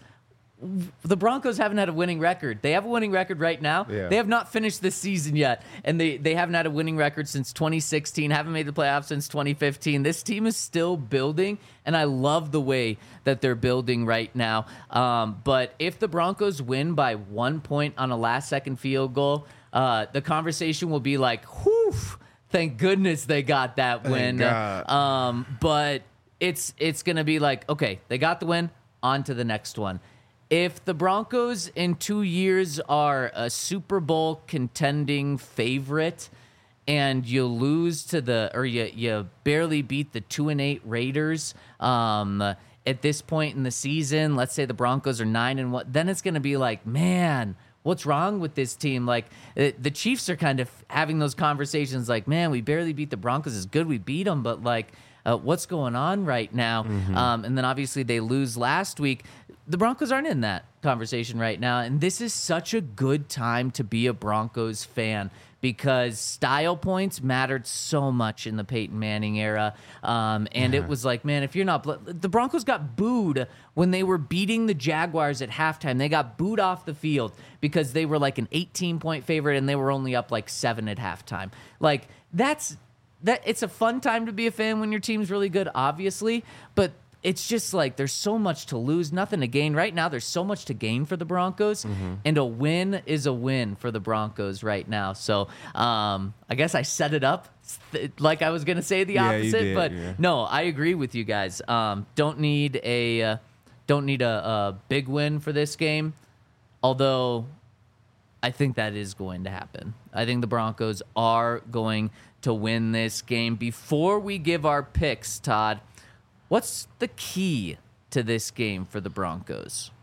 The Broncos haven't had a winning record. They have a winning record right now. Yeah. They have not finished this season yet, and they they haven't had a winning record since twenty sixteen. Haven't made the playoffs since twenty fifteen. This team is still building, and I love the way that they're building right now. Um, but if the Broncos win by one point on a last-second field goal, uh, the conversation will be like, "Whew! Thank goodness they got that win." God. Um, but it's it's gonna be like, okay, they got the win. On to the next one. If the Broncos in two years are a Super Bowl contending favorite and you lose to the, or you, you barely beat the two and eight Raiders um, at this point in the season, let's say the Broncos are nine and one, then it's going to be like, man, what's wrong with this team? Like uh, the Chiefs are kind of having those conversations like, man, we barely beat the Broncos. It's good we beat them, but like, uh, what's going on right now? Mm-hmm. Um, and then obviously they lose last week. The Broncos aren't in that conversation right now, and this is such a good time to be a Broncos fan because style points mattered so much in the Peyton Manning era, um, and it was like, man, if you're not... The Broncos got booed when they were beating the Jaguars at halftime. They got booed off the field because they were like an eighteen-point favorite, and they were only up like seven at halftime. Like, that's... that. It's a fun time to be a fan when your team's really good, obviously, but... it's just like there's so much to lose, nothing to gain. Right now, there's so much to gain for the Broncos, Mm-hmm. and a win is a win for the Broncos right now. So um, I guess I set it up like I was going to say the Yeah, you opposite, did, but yeah. no, I agree with you guys. Um, don't need a uh, don't need a, a big win for this game, although I think that is going to happen. I think the Broncos are going to win this game. Before we give our picks, Todd, What's the key to this game for the Broncos?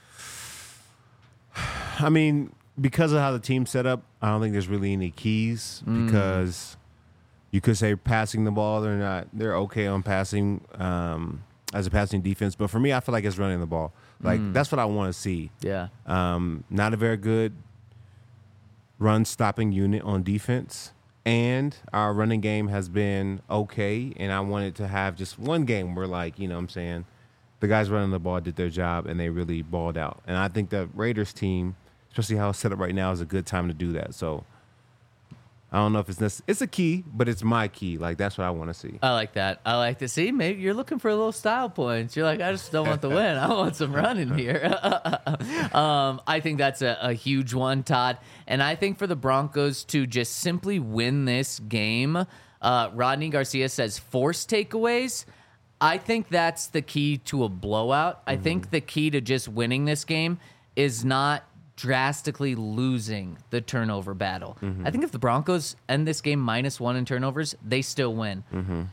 I mean, because of how the team's set up, I don't think there's really any keys Mm. because you could say passing the ball, they're not, they're okay on passing um, as a passing defense. But for me, I feel like it's running the ball. Like, Mm. that's what I want to see. Yeah. Um, not a very good run stopping unit on defense. And our running game has been okay. And I wanted to have just one game where, like, you know what I'm saying, the guys running the ball did their job and they really balled out. And I think the Raiders team, especially how it's set up right now, is a good time to do that. So I don't know if it's necess- it's a key, but it's my key. Like, that's what I want to see. I like that. I like to see. Maybe you're looking for a little style points. You're like, I just don't want the win. I want some running here. um, I think that's a, a huge one, Todd. And I think for the Broncos to just simply win this game, uh, Rodney Garcia says force takeaways. I think that's the key to a blowout. I think the key to just winning this game is not drastically losing the turnover battle. I think if the Broncos end this game minus one in turnovers, they still win.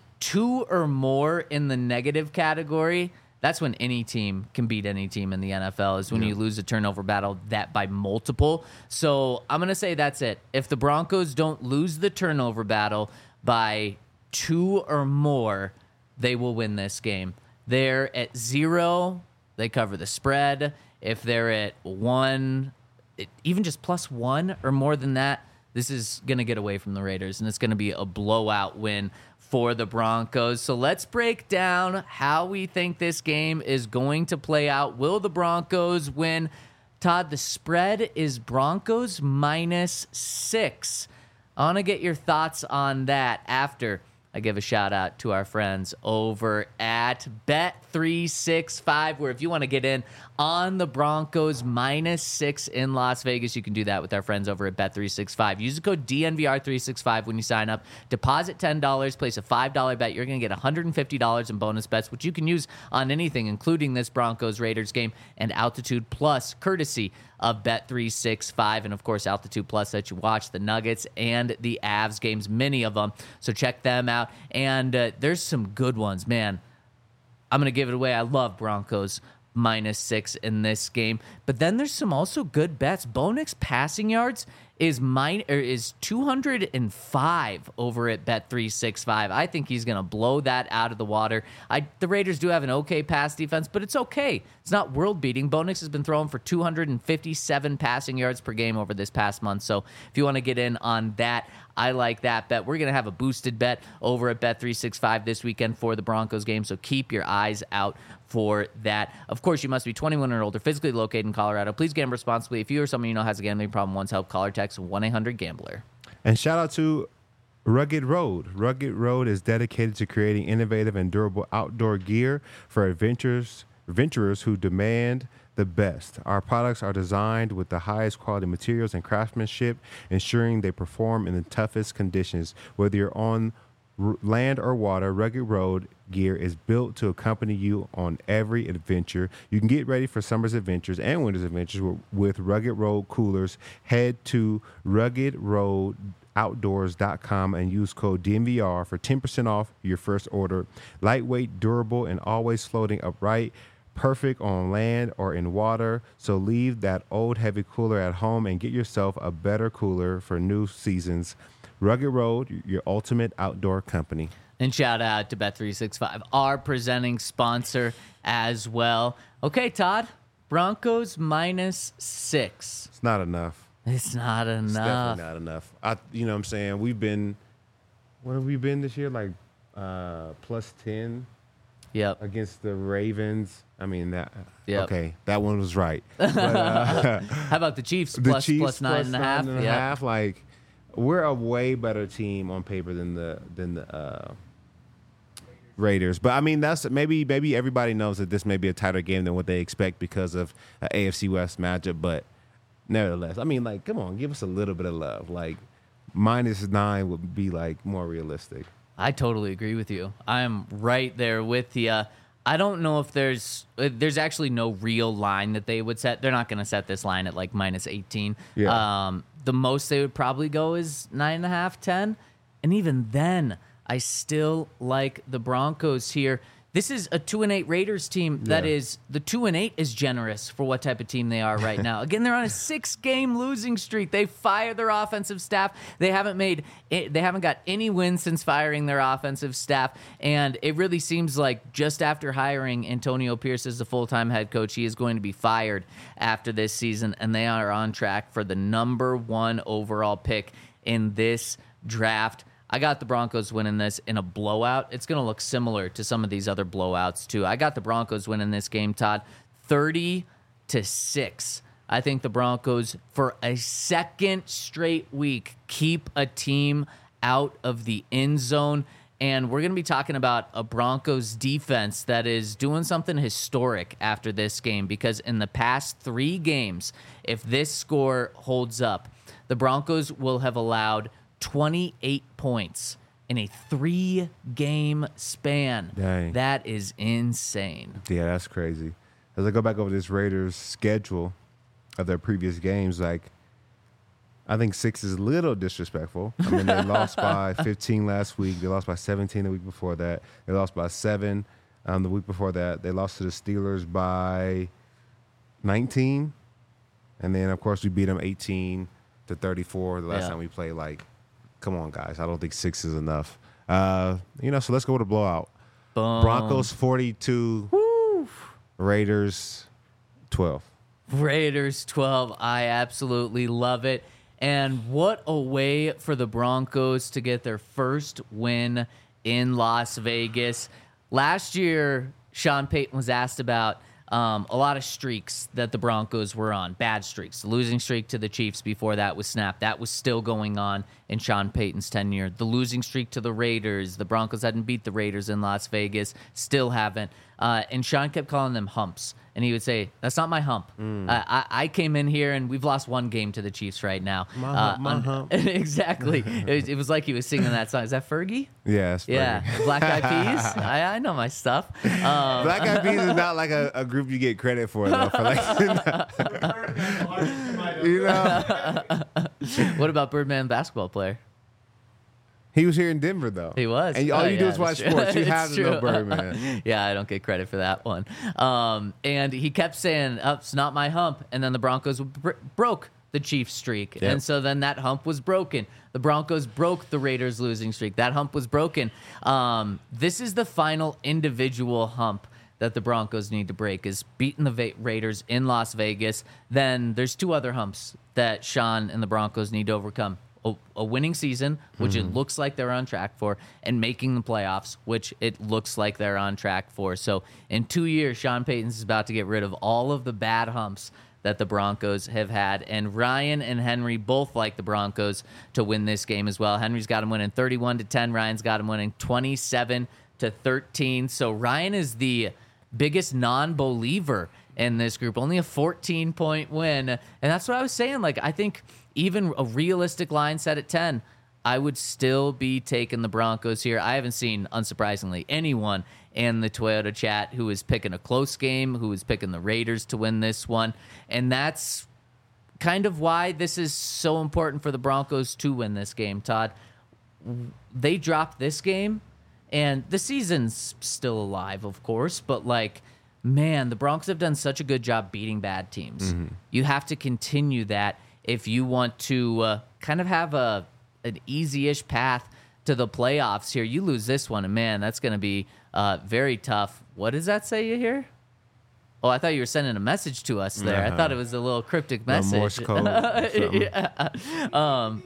Two or more in the negative category, that's when any team can beat any team in the N F L, is when you lose a turnover battle that by multiple. So I'm going to say that's it. If the Broncos don't lose the turnover battle by two or more, they will win this game. They're at zero, they cover the spread. If they're at one, it, even just plus one or more than that, this is going to get away from the Raiders, and it's going to be a blowout win for the Broncos. So let's break down how we think this game is going to play out. Will the Broncos win? Todd, the spread is Broncos minus six. I want to get your thoughts on that after I give a shout out to our friends over at Bet three sixty-five, where if you want to get in on the Broncos minus six in Las Vegas, you can do that with our friends over at Bet three sixty-five. Use the code D N V R three sixty-five when you sign up. Deposit ten dollars, place a five dollar bet. You're going to get one hundred fifty dollars in bonus bets, which you can use on anything, including this Broncos-Raiders game and Altitude Plus, courtesy of Bet three sixty-five, and of course Altitude Plus that you watch the Nuggets and the Avs games, many of them. So check them out. And uh, there's some good ones, man. I'm gonna give it away. I love Broncos minus six in this game, but then there's some also good bets. Bo Nix passing yards is mine or is two hundred five over at Bet three sixty-five. I think he's gonna blow that out of the water. I the Raiders do have an okay pass defense, but it's okay. It's not world beating. Bo Nix has been throwing for two hundred fifty-seven passing yards per game over this past month. So if you want to get in on that, I like that bet. We're going to have a boosted bet over at Bet three sixty-five this weekend for the Broncos game, so keep your eyes out for that. Of course, you must be twenty-one or older, physically located in Colorado. Please gamble responsibly. If you or someone you know has a gambling problem, once help, call or text one eight hundred gambler. And shout out to Rugged Road. Rugged Road is dedicated to creating innovative and durable outdoor gear for adventurers, adventurers who demand the best. Our products are designed with the highest quality materials and craftsmanship, ensuring they perform in the toughest conditions. Whether you're on r- land or water, Rugged Road gear is built to accompany you on every adventure. You can get ready for summer's adventures and winter's adventures with, with Rugged Road coolers. Head to rugged road outdoors dot com and use code D N V R for ten percent off your first order. Lightweight, durable, and always floating upright. Perfect on land or in water. So leave that old heavy cooler at home and get yourself a better cooler for new seasons. Rugged Road, your ultimate outdoor company. And shout out to Bet three sixty-five, our presenting sponsor as well. Okay, Todd, Broncos minus six. It's not enough. It's not enough. It's definitely not enough. I, you know what I'm saying? We've been, what have we been this year? Like uh, plus ten Yep. against the Ravens. I mean, that, Yep. okay, that one was right. But, uh, How about the Chiefs? the Plus, Chiefs plus nine plus and a half. nine and a Yep. half, like, we're a way better team on paper than the than the uh, Raiders. But I mean, that's maybe maybe everybody knows that this may be a tighter game than what they expect because of an A F C West matchup. But nevertheless, I mean, like, come on, give us a little bit of love. Like, minus nine would be like more realistic. I totally agree with you. I'm right there with you. I don't know if there's uh, there's actually no real line that they would set. They're not going to set this line at like minus eighteen. Yeah. Um, the most they would probably go is nine and a half, ten, and even then, I still like the Broncos here. this is a two and eight Raiders team that Yeah. is the two and eight is generous for what type of team they are right now. Again, they're on a six game losing streak. They fired their offensive staff. They haven't made it, they haven't got any wins since firing their offensive staff, and it really seems like just after hiring Antonio Pierce as the full time head coach, he is going to be fired after this season, and they are on track for the number one overall pick in this draft. I got the Broncos winning this in a blowout. It's going to look similar to some of these other blowouts, too. I got the Broncos winning this game, Todd, thirty to six. I think the Broncos, for a second straight week, keep a team out of the end zone. And we're going to be talking about a Broncos defense that is doing something historic after this game, because in the past three games, if this score holds up, the Broncos will have allowed twenty-eight points in a three-game span. Dang. That is insane. Yeah, that's crazy. As I go back over this Raiders schedule of their previous games, like, I think six is a little disrespectful. I mean, they lost by fifteen last week. They lost by seventeen the week before that. They lost by seven um, the week before that. They lost to the Steelers by nineteen. And then, of course, we beat them eighteen to thirty-four the last Yeah. time we played. Like, come on, guys. I don't think six is enough. Uh, you know, so let's go with a blowout. Boom. Broncos forty-two, Raiders twelve. Raiders twelve. I absolutely love it. And what a way for the Broncos to get their first win in Las Vegas. Last year, Sean Payton was asked about um, a lot of streaks that the Broncos were on, bad streaks. The losing streak to the Chiefs before that was snapped. That was still going on in Sean Payton's tenure. The losing streak to the Raiders. The Broncos hadn't beat the Raiders in Las Vegas. Still haven't. Uh, and Sean kept calling them humps. And he would say, that's not my hump. Uh, I, I came in here, and we've lost one game to the Chiefs right now. My Uh, hump, my un- hump. exactly. It was, it was like he was singing that song. Is that Fergie? Yeah, it's Yeah. Fergie. Black Eyed Peas? I, I know my stuff. Um, Black Eyed Peas is not like a, a group you get credit for, though. For like, you know, what about Birdman basketball player? he was here in Denver, though. He was. And all Oh, you do yeah, is watch that's true. sports. You It's have to know true. Birdman. Yeah, I don't get credit for that one. Um, and he kept saying, oh, it's not my hump. And then the Broncos br- broke the Chiefs streak. Yep. And so then that hump was broken. The Broncos broke the Raiders losing streak. That hump was broken. Um, this is the final individual hump that the Broncos need to break, is beating the Va- Raiders in Las Vegas. Then there's two other humps that Sean and the Broncos need to overcome. A, a winning season, which it looks like they're on track for, and making the playoffs, which it looks like they're on track for. So in two years, Sean Payton's about to get rid of all of the bad humps that the Broncos have had. And Ryan and Henry both like the Broncos to win this game as well. Henry's got him winning thirty-one to ten. Ryan's got him winning twenty-seven to thirteen. So Ryan is the biggest non-believer in this group. Only a fourteen-point win. And that's what I was saying. Like, I think even a realistic line set at ten, I would still be taking the Broncos here. I haven't seen, unsurprisingly, anyone in the Toyota chat who is picking a close game, who is picking the Raiders to win this one. And that's kind of why this is so important for the Broncos to win this game, Todd. They dropped this game, and the season's still alive, of course, but like, man, the Broncos have done such a good job beating bad teams. You have to continue that if you want to uh, kind of have a an easy-ish path to the playoffs here. You lose this one, and man, that's going to be uh, very tough. What does that say you here? Oh, I thought you were sending a message to us there. I Uh-huh. thought it was a little cryptic A message. Morse code. something. yeah. Um,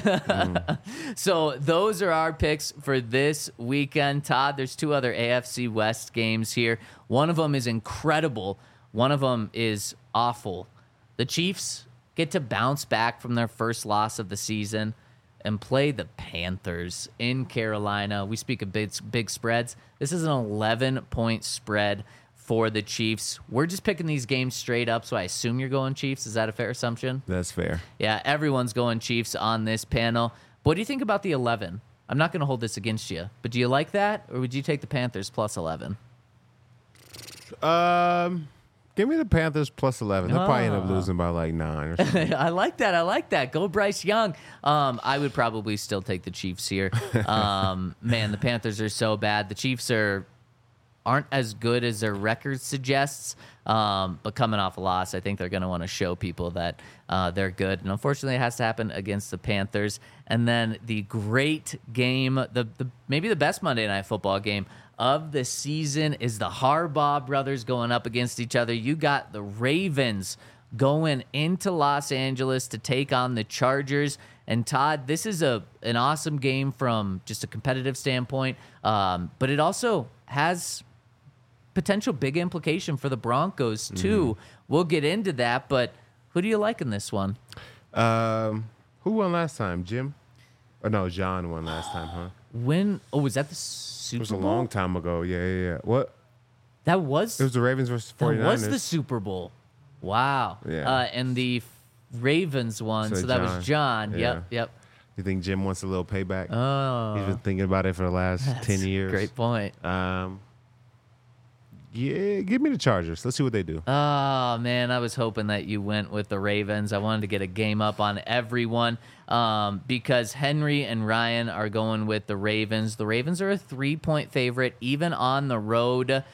So those are our picks for this weekend, Todd. There's two other A F C West games here. One of them is incredible. One of them is awful. The Chiefs get to bounce back from their first loss of the season and play the Panthers in Carolina. We speak of big, big spreads. This is an eleven-point spread for the Chiefs. We're just picking these games straight up, so I assume you're going Chiefs. Is that a fair assumption? That's fair. Yeah, everyone's going Chiefs on this panel. What do you think about the eleven? I'm not going to hold this against you, but do you like that, or would you take the Panthers plus eleven? Um, give me the Panthers plus eleven. They'll probably end up Ah. losing by like nine or something. I like that. I like that. Go Bryce Young. Um, I would probably still take the Chiefs here. Um, man, the Panthers are so bad. The Chiefs are aren't as good as their record suggests. Um, but coming off a loss, I think they're going to want to show people that uh, they're good. And unfortunately, it has to happen against the Panthers. And then the great game, the, the maybe the best Monday Night Football game of the season is the Harbaugh brothers going up against each other. You got the Ravens going into Los Angeles to take on the Chargers. And Todd, this is a an awesome game from just a competitive standpoint, um, but it also has potential big implication for the Broncos too. Mm-hmm. We'll get into that, but who do you like in this one? Um, who won last time? Jim? Or no, John won last time, huh? When? Oh, was that the Super Bowl? It was a long time ago. Yeah, yeah, yeah. What? That was. It was the Ravens versus That 49ers. was the Super Bowl. Wow. Yeah. Uh, and the Ravens won, so, So that John. was John. Yeah. Yep, yep. You think Jim wants a little payback? Oh, He's been thinking about it for the last that's ten years. a great point. Um, yeah, give me the Chargers. Let's see what they do. Oh, man, I was hoping that you went with the Ravens. I wanted to get a game up on everyone um, because Henry and Ryan are going with the Ravens. The Ravens are a three-point favorite, even on the road.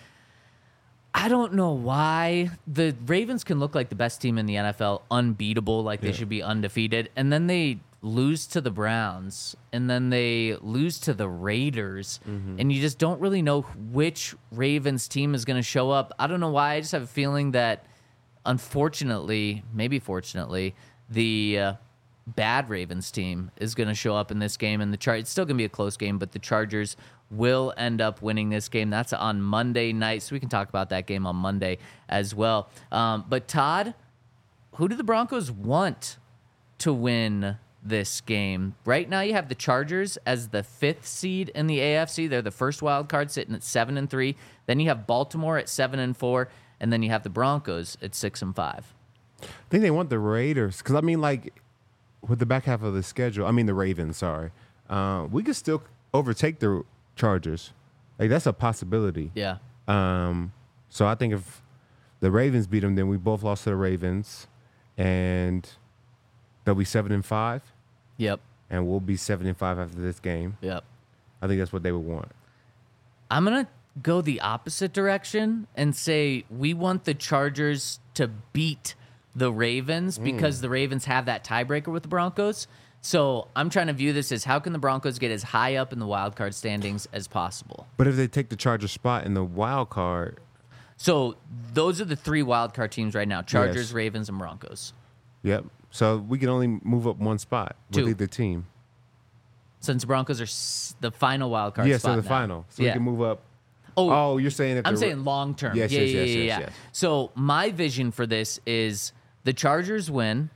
I don't know why. The Ravens can look like the best team in the N F L, unbeatable, like they Yeah. should be undefeated, and then they lose to the Browns, and then they lose to the Raiders, and you just don't really know which Ravens team is going to show up. I don't know why. I just have a feeling that, unfortunately, maybe fortunately, the uh, bad Ravens team is going to show up in this game, and the Char- it's still going to be a close game, but the Chargers will end up winning this game. That's on Monday night, so we can talk about that game on Monday as well. Um, but Todd, who do the Broncos want to win this game? Right now you have the Chargers as the fifth seed in the A F C. They're the first wild card, sitting at seven and three. Then you have Baltimore at seven and four, and then you have the Broncos at six and five. I think they want the Raiders because I mean, like with the back half of the schedule, I mean the Ravens. Sorry, uh, we could still overtake the Chargers. Like that's a possibility. Yeah. Um, so I think if the Ravens beat them, then we both lost to the Ravens, and they'll be seven and five, Yep. and we'll be seven and five after this game. Yep. I think that's what they would want. I'm going to go the opposite direction and say we want the Chargers to beat the Ravens because the Ravens have that tiebreaker with the Broncos. So I'm trying to view this as how can the Broncos get as high up in the wild card standings as possible. But if they take the Chargers spot in the wild card, So those are the three wild card teams right now: Chargers, Yes. Ravens, and Broncos. yep. So we can only move up one spot with Two. either team. Since the Broncos are s- the final wild card Yes, spot so the now. final. So yeah. we can move up. Oh, Oh, you're saying if I'm the- saying long term. Yes, yeah, yes, yeah, yes, yeah, yes, yeah. yes. So my vision for this is the Chargers win,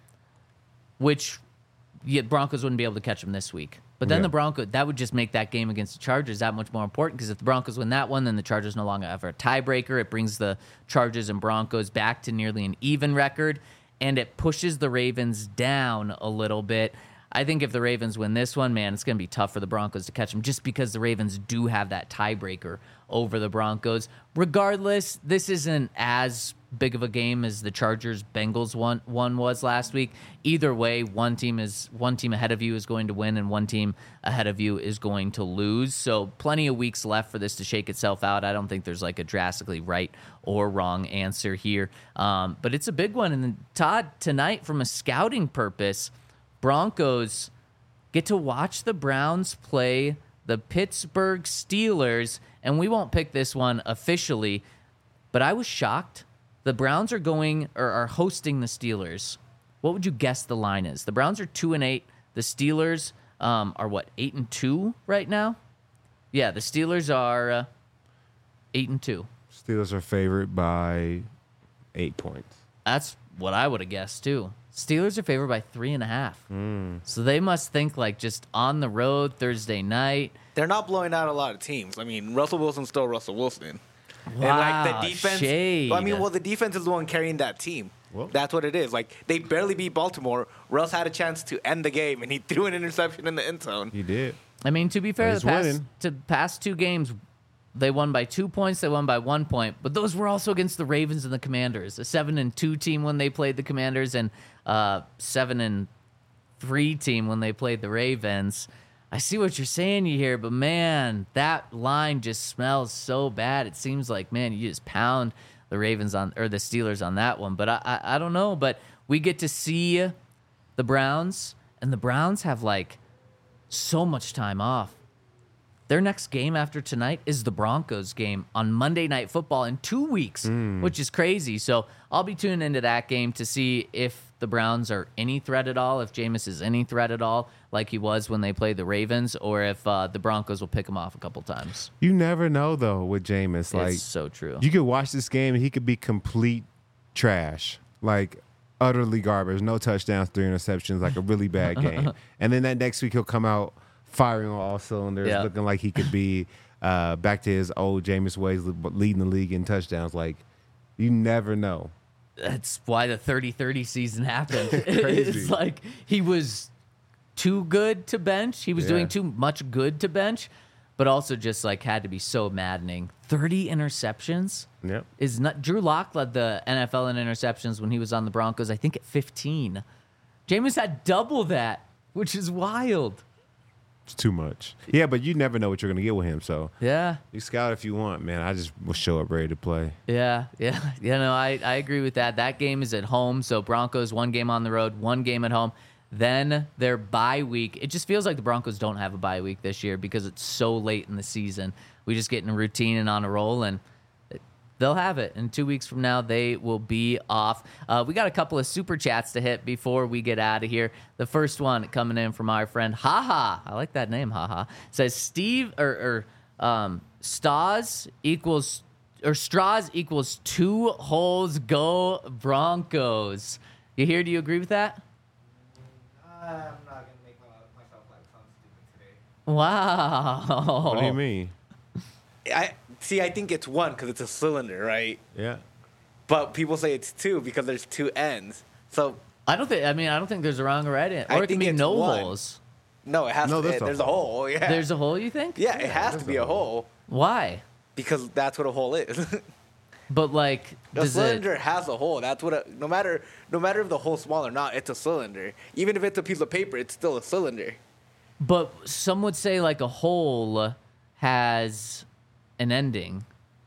which yeah, Broncos wouldn't be able to catch them this week. But then Yeah. the Broncos, that would just make that game against the Chargers that much more important because if the Broncos win that one, then the Chargers no longer have a tiebreaker. It brings the Chargers and Broncos back to nearly an even record, and it pushes the Ravens down a little bit. I think if the Ravens win this one, man, it's going to be tough for the Broncos to catch them just because the Ravens do have that tiebreaker over the Broncos. Regardless, this isn't as big of a game as the Chargers-Bengals one, one was last week. Either way, one team is one team ahead of you is going to win and one team ahead of you is going to lose. So plenty of weeks left for this to shake itself out. I don't think there's like a drastically right or wrong answer here. Um, but it's a big one. And then, Todd, tonight, from a scouting purpose, Broncos get to watch the Browns play the Pittsburgh Steelers, and we won't pick this one officially, but I was shocked. The Browns are going or are hosting the Steelers. What would you guess the line is? The Browns are two and eight. The Steelers um, are what, eight and two right now? Yeah, the Steelers are uh, eight and two. Steelers are favored by eight points. That's what I would have guessed too. Steelers are favored by three and a half. So they must think like just on the road Thursday night. They're not blowing out a lot of teams. I mean, Russell Wilson's still Russell Wilson. Wow, and like the defense, shade. I mean, well, the defense is the one carrying that team. Well- That's what it is. Like they barely beat Baltimore. Russ had a chance to end the game, and he threw an interception in the end zone. You did. I mean, to be fair, He's the past, winning. to past two games, they won by two points. They won by one point, but those were also against the Ravens and the Commanders. A seven and two team when they played the Commanders, and uh, seven and three team when they played the Ravens. I see what you're saying you here, but man, that line just smells so bad. It seems like, man, you just pound the Ravens on or the Steelers on that one. But I, I, I don't know. But we get to see the Browns, and the Browns have like so much time off. Their next game after tonight is the Broncos game on Monday Night Football in two weeks, mm. which is crazy. So I'll be tuning into that game to see if the Browns are any threat at all, if Jameis is any threat at all, like he was when they played the Ravens, or if uh, the Broncos will pick him off a couple times. You never know, though, with Jameis. Like, it's so true. You could watch this game, and he could be complete trash, like utterly garbage, no touchdowns, three interceptions, like a really bad game. And then that next week he'll come out firing on all cylinders, yeah. looking like he could be uh, back to his old Jameis ways, leading the league in touchdowns. Like, you never know. That's why the thirty thirty season happened. Crazy. It's like he was too good to bench. He was Yeah. doing too much good to bench, but also just like had to be so maddening. thirty interceptions Yep. is not. Drew Lock led the N F L in interceptions when he was on the Broncos, I think at fifteen. Jameis had double that, which is wild. It's too much. Yeah, but you never know what you're going to get with him. So Yeah. you scout if you want, man. I just will show up ready to play. Yeah, yeah, you know, I, I agree with that. That game is at home, so Broncos one game on the road, one game at home. Then their bye week. It just feels like the Broncos don't have a bye week this year because it's so late in the season. We just get in a routine and on a roll, and they'll have it. And two weeks from now, they will be off. Uh, we got a couple of super chats to hit before we get out of here. The first one coming in from our friend Haha. I like that name, Haha. Says Steve or, or um, Stas equals or Straws equals two holes. Go Broncos. You hear? Do you agree with that? I'm not gonna make myself like sound stupid today. Wow. What do you mean? I see. I think it's one because it's a cylinder, right? Yeah. But people say it's two because there's two ends. So I don't think. I mean, I don't think there's a wrong or right answer. I Or it can think be it's no one. holes. no, it has No, to. there's a There's a hole. hole. Yeah. There's a hole. You think? yeah, it has to there's be a a hole Why? because that's what a hole is. But like, The does cylinder it? has a hole. That's what. A, no matter no matter if the hole's small or not, it's a cylinder. Even if it's a piece of paper, it's still a cylinder. But some would say like a hole has an ending.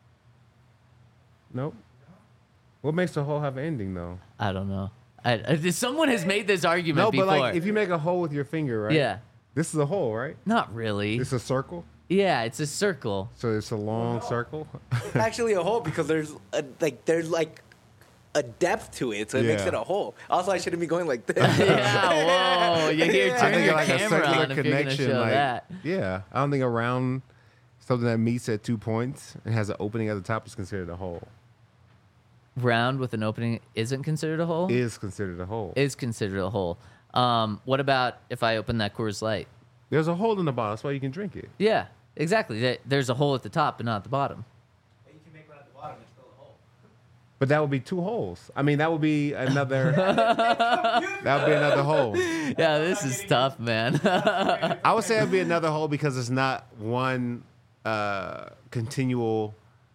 Nope. What makes a hole have an ending, though? I don't know. I, I, someone has made this argument No, before. but like if you make a hole with your finger, right? Yeah. This is a hole, right? Not really. It's a circle. Yeah, it's a circle. So it's a long circle. It's actually a hole because there's a, like there's like a depth to it, so it makes Yeah. it a hole. Also, I shouldn't be going like this. Yeah, whoa. You hear, I turn think your like a camera circular on if you're going to connection, show like that. yeah. I don't think a round something that meets at two points and has an opening at the top is considered a hole. Round with an opening isn't considered a hole? Is considered a hole. Is considered a hole. Um, what about if I open that Coors Light? There's a hole in the bottom. That's why you can drink it. Yeah, exactly. There- There's a hole at the top, but not at the bottom. You can make one at the bottom. It's still a hole. But that would be two holes. I mean, that would be another. that would be another hole. Yeah, this is tough, man. I would say it would be another hole because it's not one uh, continual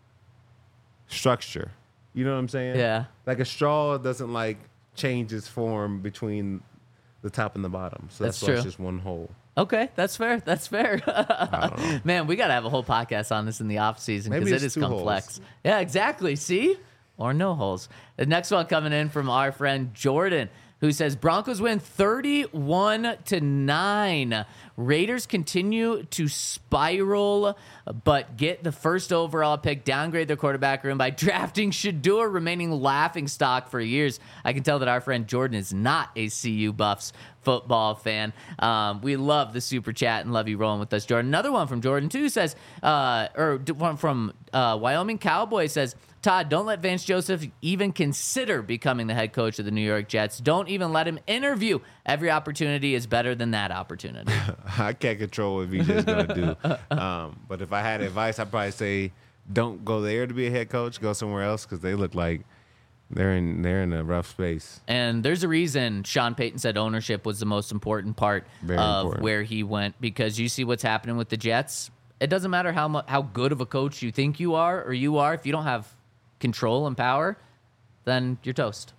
structure. You know what I'm saying? Yeah. Like a straw doesn't like change its form between the top and the bottom. So that's, That's why it's true. just one hole. Okay, that's fair. That's fair. Man, we got to have a whole podcast on this in the off season because Maybe it it's is two complex. holes. Yeah, exactly. See? Or no holes. The next one coming in from our friend Jordan, who says Broncos win thirty-one to nine. Raiders continue to spiral, but get the first overall pick, downgrade their quarterback room by drafting Shador, remaining laughing stock for years. I can tell that our friend Jordan is not a C U Buffs football fan. Um, we love the super chat and love you rolling with us, Jordan. Another one from Jordan, too, says, uh, or d- one from uh, Wyoming Cowboy says, Todd, don't let Vance Joseph even consider becoming the head coach of the New York Jets. Don't even let him interview. Every opportunity is better than that opportunity. I can't control what V J's going to do. Um, but if I had advice, I'd probably say don't go there to be a head coach. Go somewhere else because they look like they're in they're in a rough space. And there's a reason Sean Payton said ownership was the most important part Very of important. where he went, because you see what's happening with the Jets. It doesn't matter how mu- how good of a coach you think you are or you are. If you don't have control and power, then you're toast. Yeah.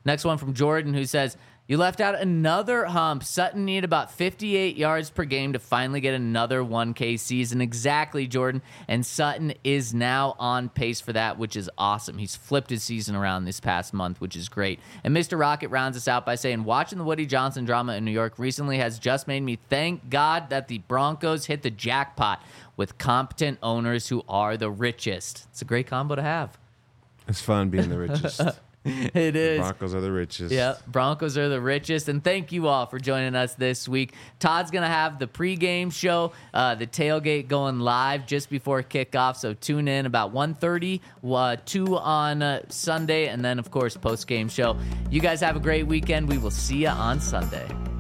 Next one from Jordan, who says, you left out another hump. Sutton needed about fifty-eight yards per game to finally get another one K season. Exactly, Jordan. And Sutton is now on pace for that, which is awesome. He's flipped his season around this past month, which is great. And Mister Rocket rounds us out by saying, watching the Woody Johnson drama in New York recently has just made me thank God that the Broncos hit the jackpot with competent owners who are the richest. It's a great combo to have. It's fun being the richest. It is. Broncos are the richest. Yeah, Broncos are the richest. And thank you all for joining us this week. Todd's going to have the pregame show, uh, the tailgate going live just before kickoff. So tune in about one thirty, uh, two on uh, Sunday, and then, of course, postgame show. You guys have a great weekend. We will see you on Sunday.